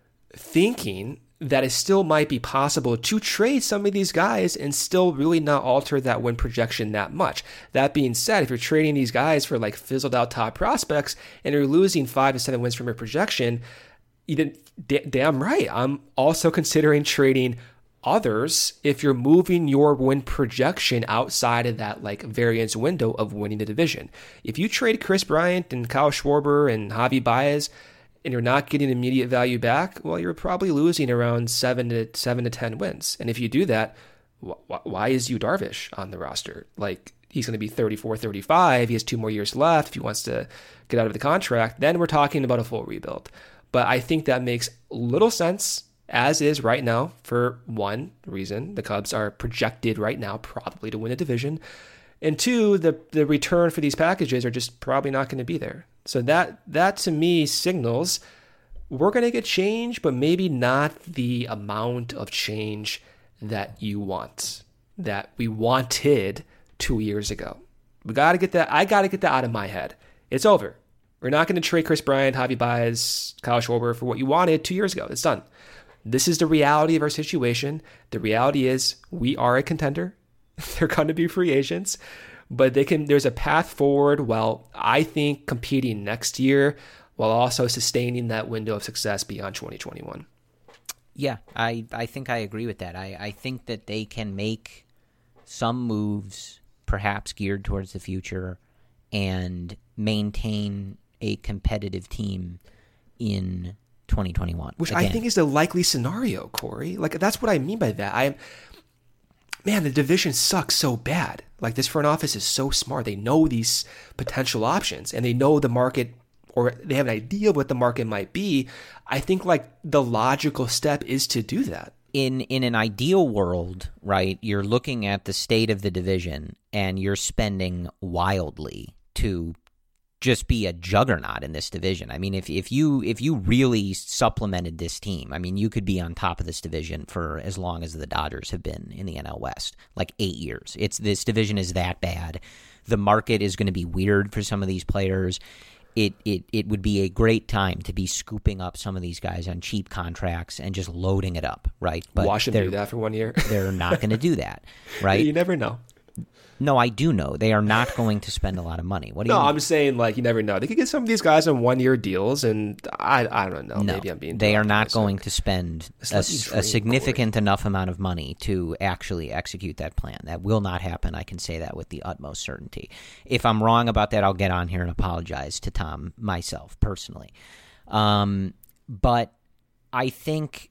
thinking that it still might be possible to trade some of these guys and still really not alter that win projection that much. That being said, if you're trading these guys for like fizzled out top prospects and you're losing five to seven wins from your projection, you didn't, d- damn right. I'm also considering trading others if you're moving your win projection outside of that like variance window of winning the division. If you trade Chris Bryant and Kyle Schwarber and Javi Baez, and you're not getting immediate value back, well, you're probably losing around seven to seven to ten wins. And if you do that, wh- why is Yu Darvish on the roster? Like, he's going to be thirty-four, thirty-five. He has two more years left. If he wants to get out of the contract, then we're talking about a full rebuild. But I think that makes little sense as is right now for one reason. The Cubs are projected right now probably to win a division. And two, the, the return for these packages are just probably not going to be there. So that that to me signals we're going to get change, but maybe not the amount of change that you want, that we wanted two years ago. We got to get that. I got to get that out of my head. It's over. We're not going to trade Chris Bryant, Javi Baez, Kyle Schwarber for what you wanted two years ago. It's done. This is the reality of our situation. The reality is we are a contender. They're going to be free agents, but they can. There's a path forward. Well, I think competing next year while also sustaining that window of success beyond twenty twenty-one. Yeah, I, I think I agree with that. I, I think that they can make some moves, perhaps geared towards the future, and maintain a competitive team in twenty twenty-one. Which Again, I think is the likely scenario, Corey. Like, that's what I mean by that. I Man, the division sucks so bad. Like, this front office is so smart. They know these potential options, and they know the market, or they have an idea of what the market might be. I think, like, the logical step is to do that. In in an ideal world, right, you're looking at the state of the division, and you're spending wildly to just be a juggernaut in this division. I mean, if if you if you really supplemented this team, I mean, you could be on top of this division for as long as the Dodgers have been in the N L West, like eight years. It's this division is that bad. The market is going to be weird for some of these players. It it it would be a great time to be scooping up some of these guys on cheap contracts and just loading it up, right? But Watch them do that for one year. They're not going to do that, right? You never know. No, I do know. They are not going to spend a lot of money. What do no, you mean? I'm saying, like, you never know. They could get some of these guys on one-year deals, and I I don't know. No, maybe I'm being they are not going to spend a, a significant Corey. enough amount of money to actually execute that plan. That will not happen. I can say that with the utmost certainty. If I'm wrong about that, I'll get on here and apologize to Tom myself personally. Um, but I think,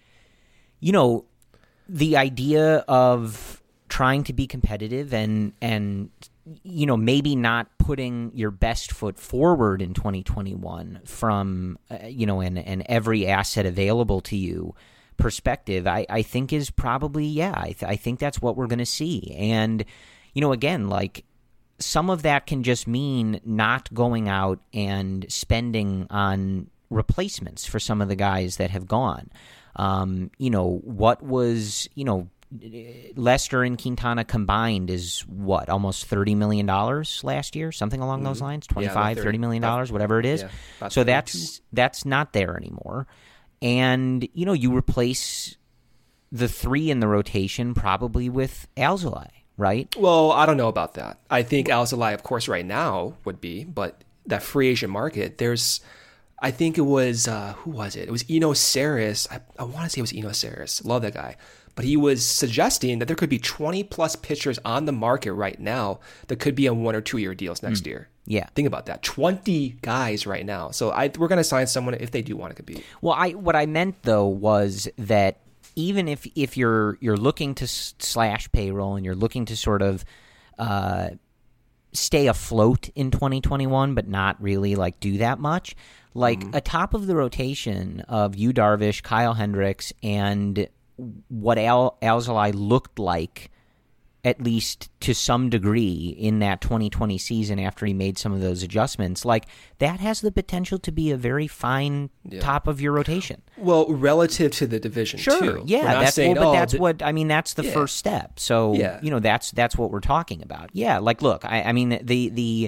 you know, the idea of trying to be competitive and, and you know, maybe not putting your best foot forward in twenty twenty-one from, uh, you know, an, an every asset available to you perspective, I, I think is probably, yeah, I, th- I think that's what we're going to see. And, you know, again, like, some of that can just mean not going out and spending on replacements for some of the guys that have gone. Um, you know, what was, you know, Lester and Quintana combined is what, almost thirty million dollars last year, something along mm-hmm. those lines, twenty-five, yeah, thirty million dollars, whatever it is. Yeah, so that's that's not there anymore. And, you know, you replace the three in the rotation probably with Alzolay, right? Well, I don't know about that. I think Alzolay, of course, right now would be, but that free agent market, there's, I think it was, uh, who was it? It was Eno Sarris. I, I want to say it was Eno Sarris. Love that guy. But he was suggesting that there could be twenty plus pitchers on the market right now that could be on one or two year deals next mm. year. Yeah. Think about that. twenty guys right now. So I, we're going to sign someone if they do want to compete. Well, I what I meant, though, was that even if, if you're you're looking to slash payroll and you're looking to sort of uh, stay afloat in twenty twenty-one but not really like do that much, like mm-hmm. a top of the rotation of Yu Darvish, Kyle Hendricks, and what Al Alzolay looked like, at least to some degree, in that twenty twenty season after he made some of those adjustments, like that has the potential to be a very fine yeah. top of your rotation. Well, relative to the division, sure, too. yeah, that's saying, well, but oh, that's the, what I mean. That's the yeah. first step. So yeah. you know, that's that's what we're talking about. Yeah, like look, I, I mean the the.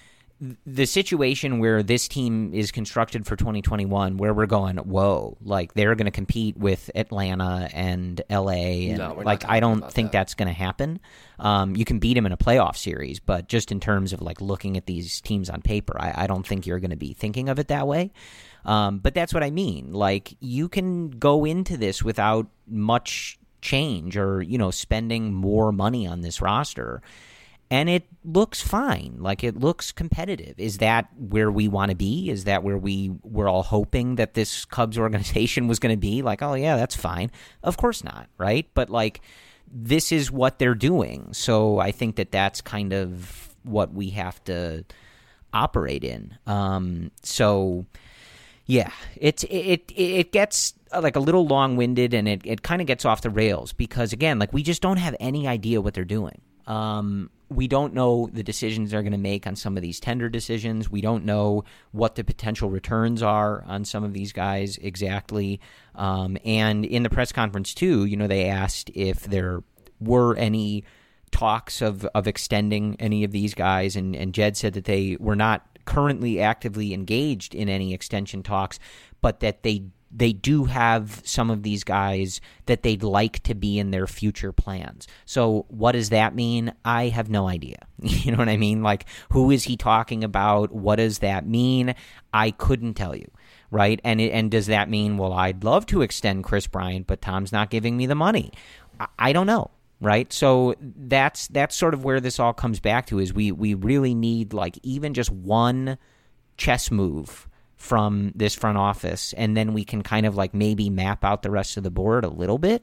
The situation where this team is constructed for twenty twenty-one, where we're going, whoa, like they're going to compete with Atlanta and L A, and no, like I don't think that. that's going to happen. Um, you can beat them in a playoff series, but just in terms of like looking at these teams on paper, I, I don't think you're going to be thinking of it that way. Um, but that's what I mean. Like you can go into this without much change or you know spending more money on this roster. And it looks fine. Like, it looks competitive. Is that where we want to be? Is that where we were all hoping that this Cubs organization was going to be? Like, oh, yeah, that's fine. Of course not, right? But, like, this is what they're doing. So I think that that's kind of what we have to operate in. Um, so, yeah, it's, it, it, it gets, like, a little long-winded, and it, it kind of gets off the rails because, again, like, we just don't have any idea what they're doing. Um, we don't know the decisions they're going to make on some of these tender decisions. We don't know what the potential returns are on some of these guys exactly. Um, and in the press conference, too, you know, they asked if there were any talks of, of extending any of these guys, and, and Jed said that they were not currently actively engaged in any extension talks, but that they they do have some of these guys that they'd like to be in their future plans. So what does that mean? I have no idea. You know what I mean? Like, who is he talking about? What does that mean? I couldn't tell you, right? And it, and does that mean, well, I'd love to extend Chris Bryant, but Tom's not giving me the money? I, I don't know, right? So that's that's sort of where this all comes back to, is we we really need, like, even just one chess move from this front office, and then we can kind of like maybe map out the rest of the board a little bit.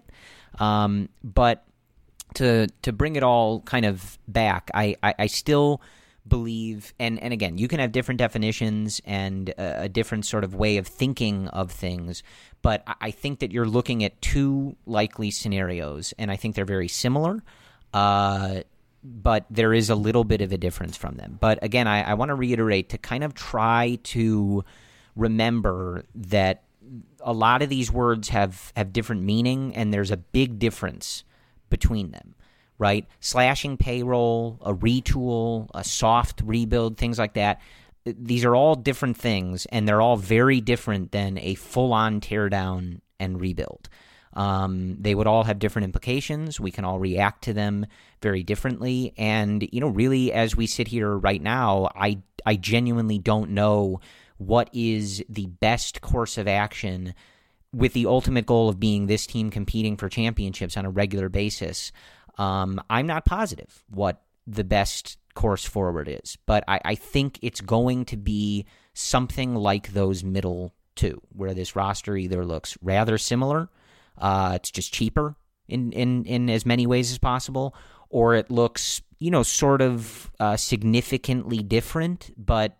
Um, but to to bring it all kind of back, I, I, I still believe, and, and again, you can have different definitions and a, a different sort of way of thinking of things, but I think that you're looking at two likely scenarios, and I think they're very similar. Uh, but there is a little bit of a difference from them. But again, I, I want to reiterate to kind of try to remember that a lot of these words have, have different meaning, and there's a big difference between them, right? Slashing payroll, a retool, a soft rebuild, things like that. These are all different things, and they're all very different than a full-on teardown and rebuild. Um, they would all have different implications. We can all react to them very differently. And, you know, really, as we sit here right now, I, I genuinely don't know what is the best course of action with the ultimate goal of being this team competing for championships on a regular basis. Um, I'm not positive what the best course forward is, but I, I think it's going to be something like those middle two, where this roster either looks rather similar, Uh, it's just cheaper in, in, in as many ways as possible, or it looks, you know, sort of uh, significantly different, but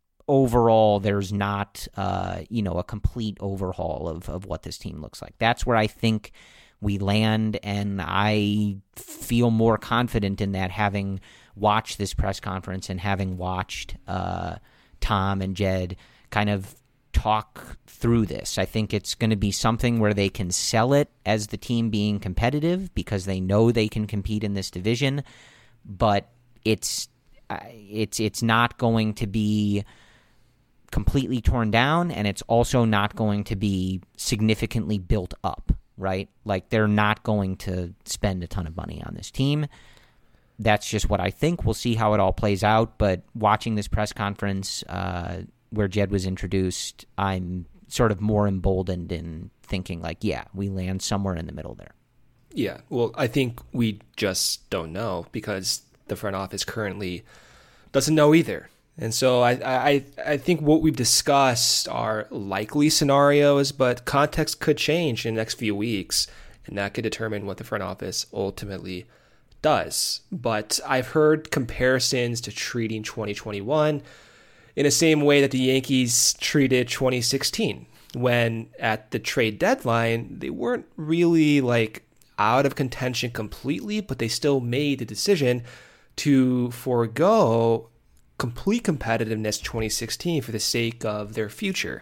overall there's not, uh, you know, a complete overhaul of, of what this team looks like. That's where I think we land, and I feel more confident in that, having watched this press conference and having watched uh, Tom and Jed kind of talk through this. I think it's going to be something where they can sell it as the team being competitive because they know they can compete in this division, but it's it's it's not going to be completely torn down, and it's also not going to be significantly built up, right? Like, they're not going to spend a ton of money on this team. That's just what I think. We'll see how it all plays out, but watching this press conference uh, where Jed was introduced, I'm sort of more emboldened in thinking like, yeah, we land somewhere in the middle there. Yeah, well, I think we just don't know because the front office currently doesn't know either. And so I, I, I think what we've discussed are likely scenarios, but context could change in the next few weeks, and that could determine what the front office ultimately does. But I've heard comparisons to treating twenty twenty-one in the same way that the Yankees treated twenty sixteen, when at the trade deadline, they weren't really like out of contention completely, but they still made the decision to forego complete competitiveness twenty sixteen for the sake of their future.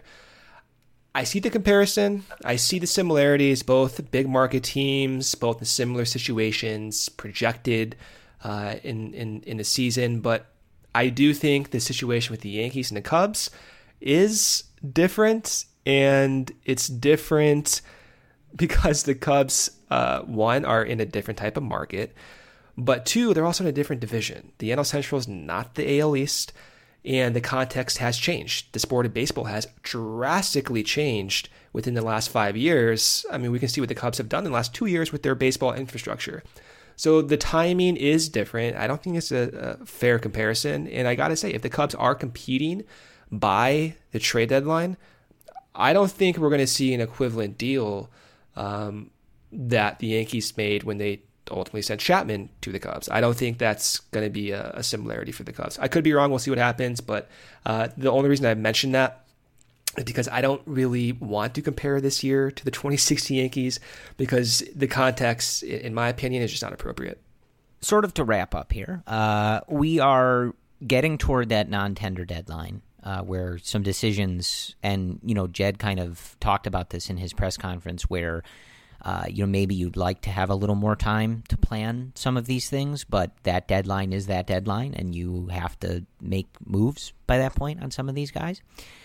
I see the comparison. I see the similarities, both big market teams, both in similar situations, projected uh, in, in, in the season. But I do think the situation with the Yankees and the Cubs is different, and it's different because the Cubs, uh, one, are in a different type of market, but two, they're also in a different division. The N L Central is not the A L East, and the context has changed. The sport of baseball has drastically changed within the last five years. I mean, we can see what the Cubs have done in the last two years with their baseball infrastructure. So the timing is different. I don't think it's a, a fair comparison. And I got to say, if the Cubs are competing by the trade deadline, I don't think we're going to see an equivalent deal um, that the Yankees made when they ultimately sent Chapman to the Cubs. I don't think that's going to be a, a similarity for the Cubs. I could be wrong. We'll see what happens. But uh, the only reason I mentioned that is because I don't really want to compare this year to the twenty sixteen Yankees, because the context, in my opinion, is just not appropriate. Sort of to wrap up here, uh, we are getting toward that non-tender deadline uh, where some decisions, and, you know, Jed kind of talked about this in his press conference, where Uh, you know, maybe you'd like to have a little more time to plan some of these things, but that deadline is that deadline, and you have to make moves by that point on some of these guys.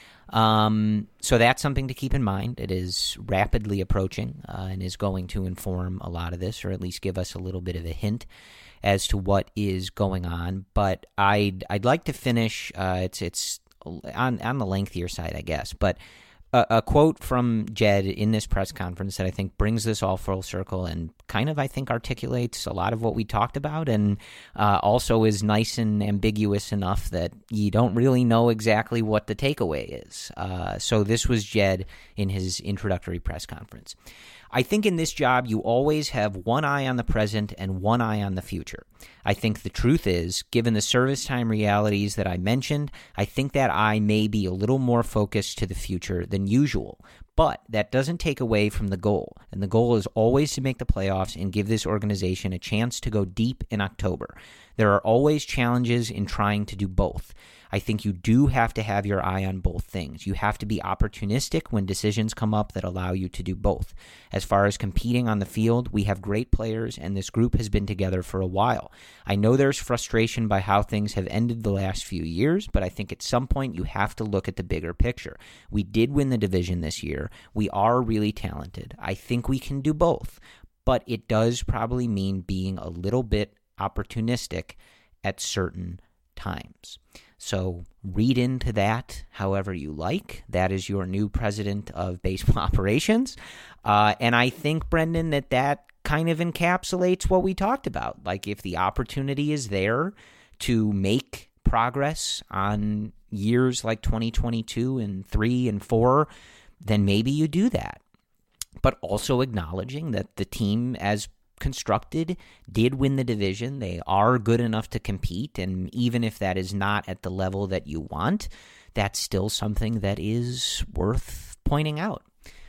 Um, so that's something to keep in mind. It is rapidly approaching uh, and is going to inform a lot of this, or at least give us a little bit of a hint as to what is going on. But I'd I'd like to finish. Uh, it's it's on on the lengthier side, I guess, but. A, a quote from Jed in this press conference that I think brings this all full circle and kind of, I think, articulates a lot of what we talked about, and uh, also is nice and ambiguous enough that you don't really know exactly what the takeaway is. Uh, so this was Jed in his introductory press conference. I think in this job, you always have one eye on the present and one eye on the future. I think the truth is, given the service time realities that I mentioned, I think that eye may be a little more focused to the future than usual. But that doesn't take away from the goal. And the goal is always to make the playoffs and give this organization a chance to go deep in October. There are always challenges in trying to do both. I think you do have to have your eye on both things. You have to be opportunistic when decisions come up that allow you to do both. As far as competing on the field, we have great players, and this group has been together for a while. I know there's frustration by how things have ended the last few years, but I think at some point you have to look at the bigger picture. We did win the division this year. We are really talented. I think we can do both, but it does probably mean being a little bit opportunistic at certain times. So read into that however you like. That is your new president of baseball operations. Uh, and I think, Brendan, that that kind of encapsulates what we talked about. Like, if the opportunity is there to make progress on years like twenty twenty-two and three and four, then maybe you do that. But also acknowledging that the team, as constructed, did win the division. They are good enough to compete, and even if that is not at the level that you want, that's still something that is worth pointing out.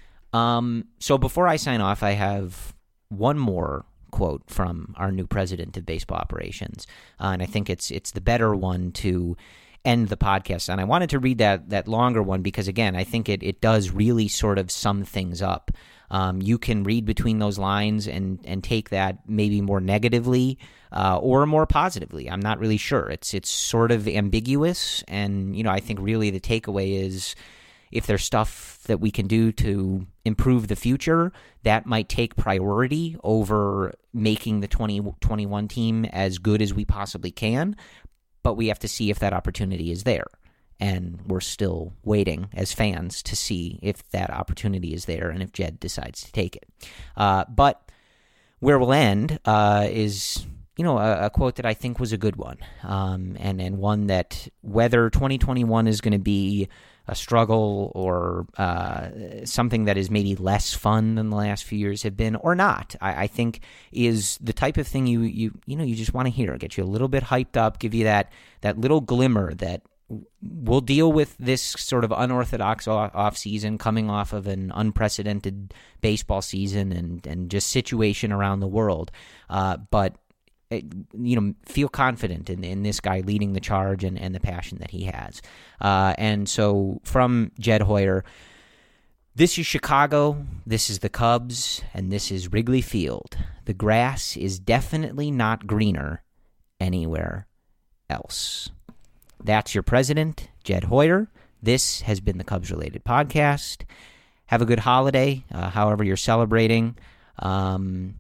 Um, so before I sign off, I have one more quote from our new president of baseball operations, uh, and I think it's it's the better one to end the podcast. And I wanted to read that that longer one because, again, I think it, it does really sort of sum things up. Um, you can read between those lines and, and take that maybe more negatively uh, or more positively. I'm not really sure. It's it's sort of ambiguous, and you know I think really the takeaway is if there's stuff that we can do to improve the future, that might take priority over making the twenty twenty-one team as good as we possibly can. But we have to see if that opportunity is there. And we're still waiting as fans to see if that opportunity is there and if Jed decides to take it. Uh, but where we'll end uh, is, you know, a, a quote that I think was a good one, um, and, and one that whether twenty twenty-one is going to be a struggle or uh, something that is maybe less fun than the last few years have been or not, I, I think is the type of thing you you you know you just want to hear, get you a little bit hyped up, give you that that little glimmer that we'll deal with this sort of unorthodox off season coming off of an unprecedented baseball season and, and just situation around the world. Uh, but, you know, feel confident in, in this guy leading the charge and, and the passion that he has. Uh, and so from Jed Hoyer, this is Chicago, this is the Cubs, and this is Wrigley Field. The grass is definitely not greener anywhere else. That's your president, Jed Hoyer. This has been the Cubs-related podcast. Have a good holiday, uh, however you're celebrating. Um,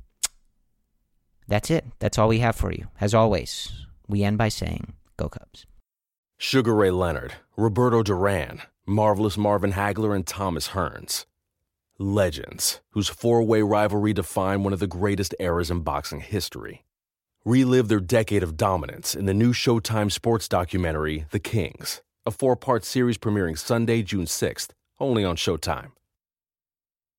that's it. That's all we have for you. As always, we end by saying, go Cubs. Sugar Ray Leonard, Roberto Duran, Marvelous Marvin Hagler, and Thomas Hearns. Legends, whose four-way rivalry defined one of the greatest eras in boxing history. Relive their decade of dominance in the new Showtime sports documentary, The Kings, a four-part series premiering Sunday, June sixth, only on Showtime.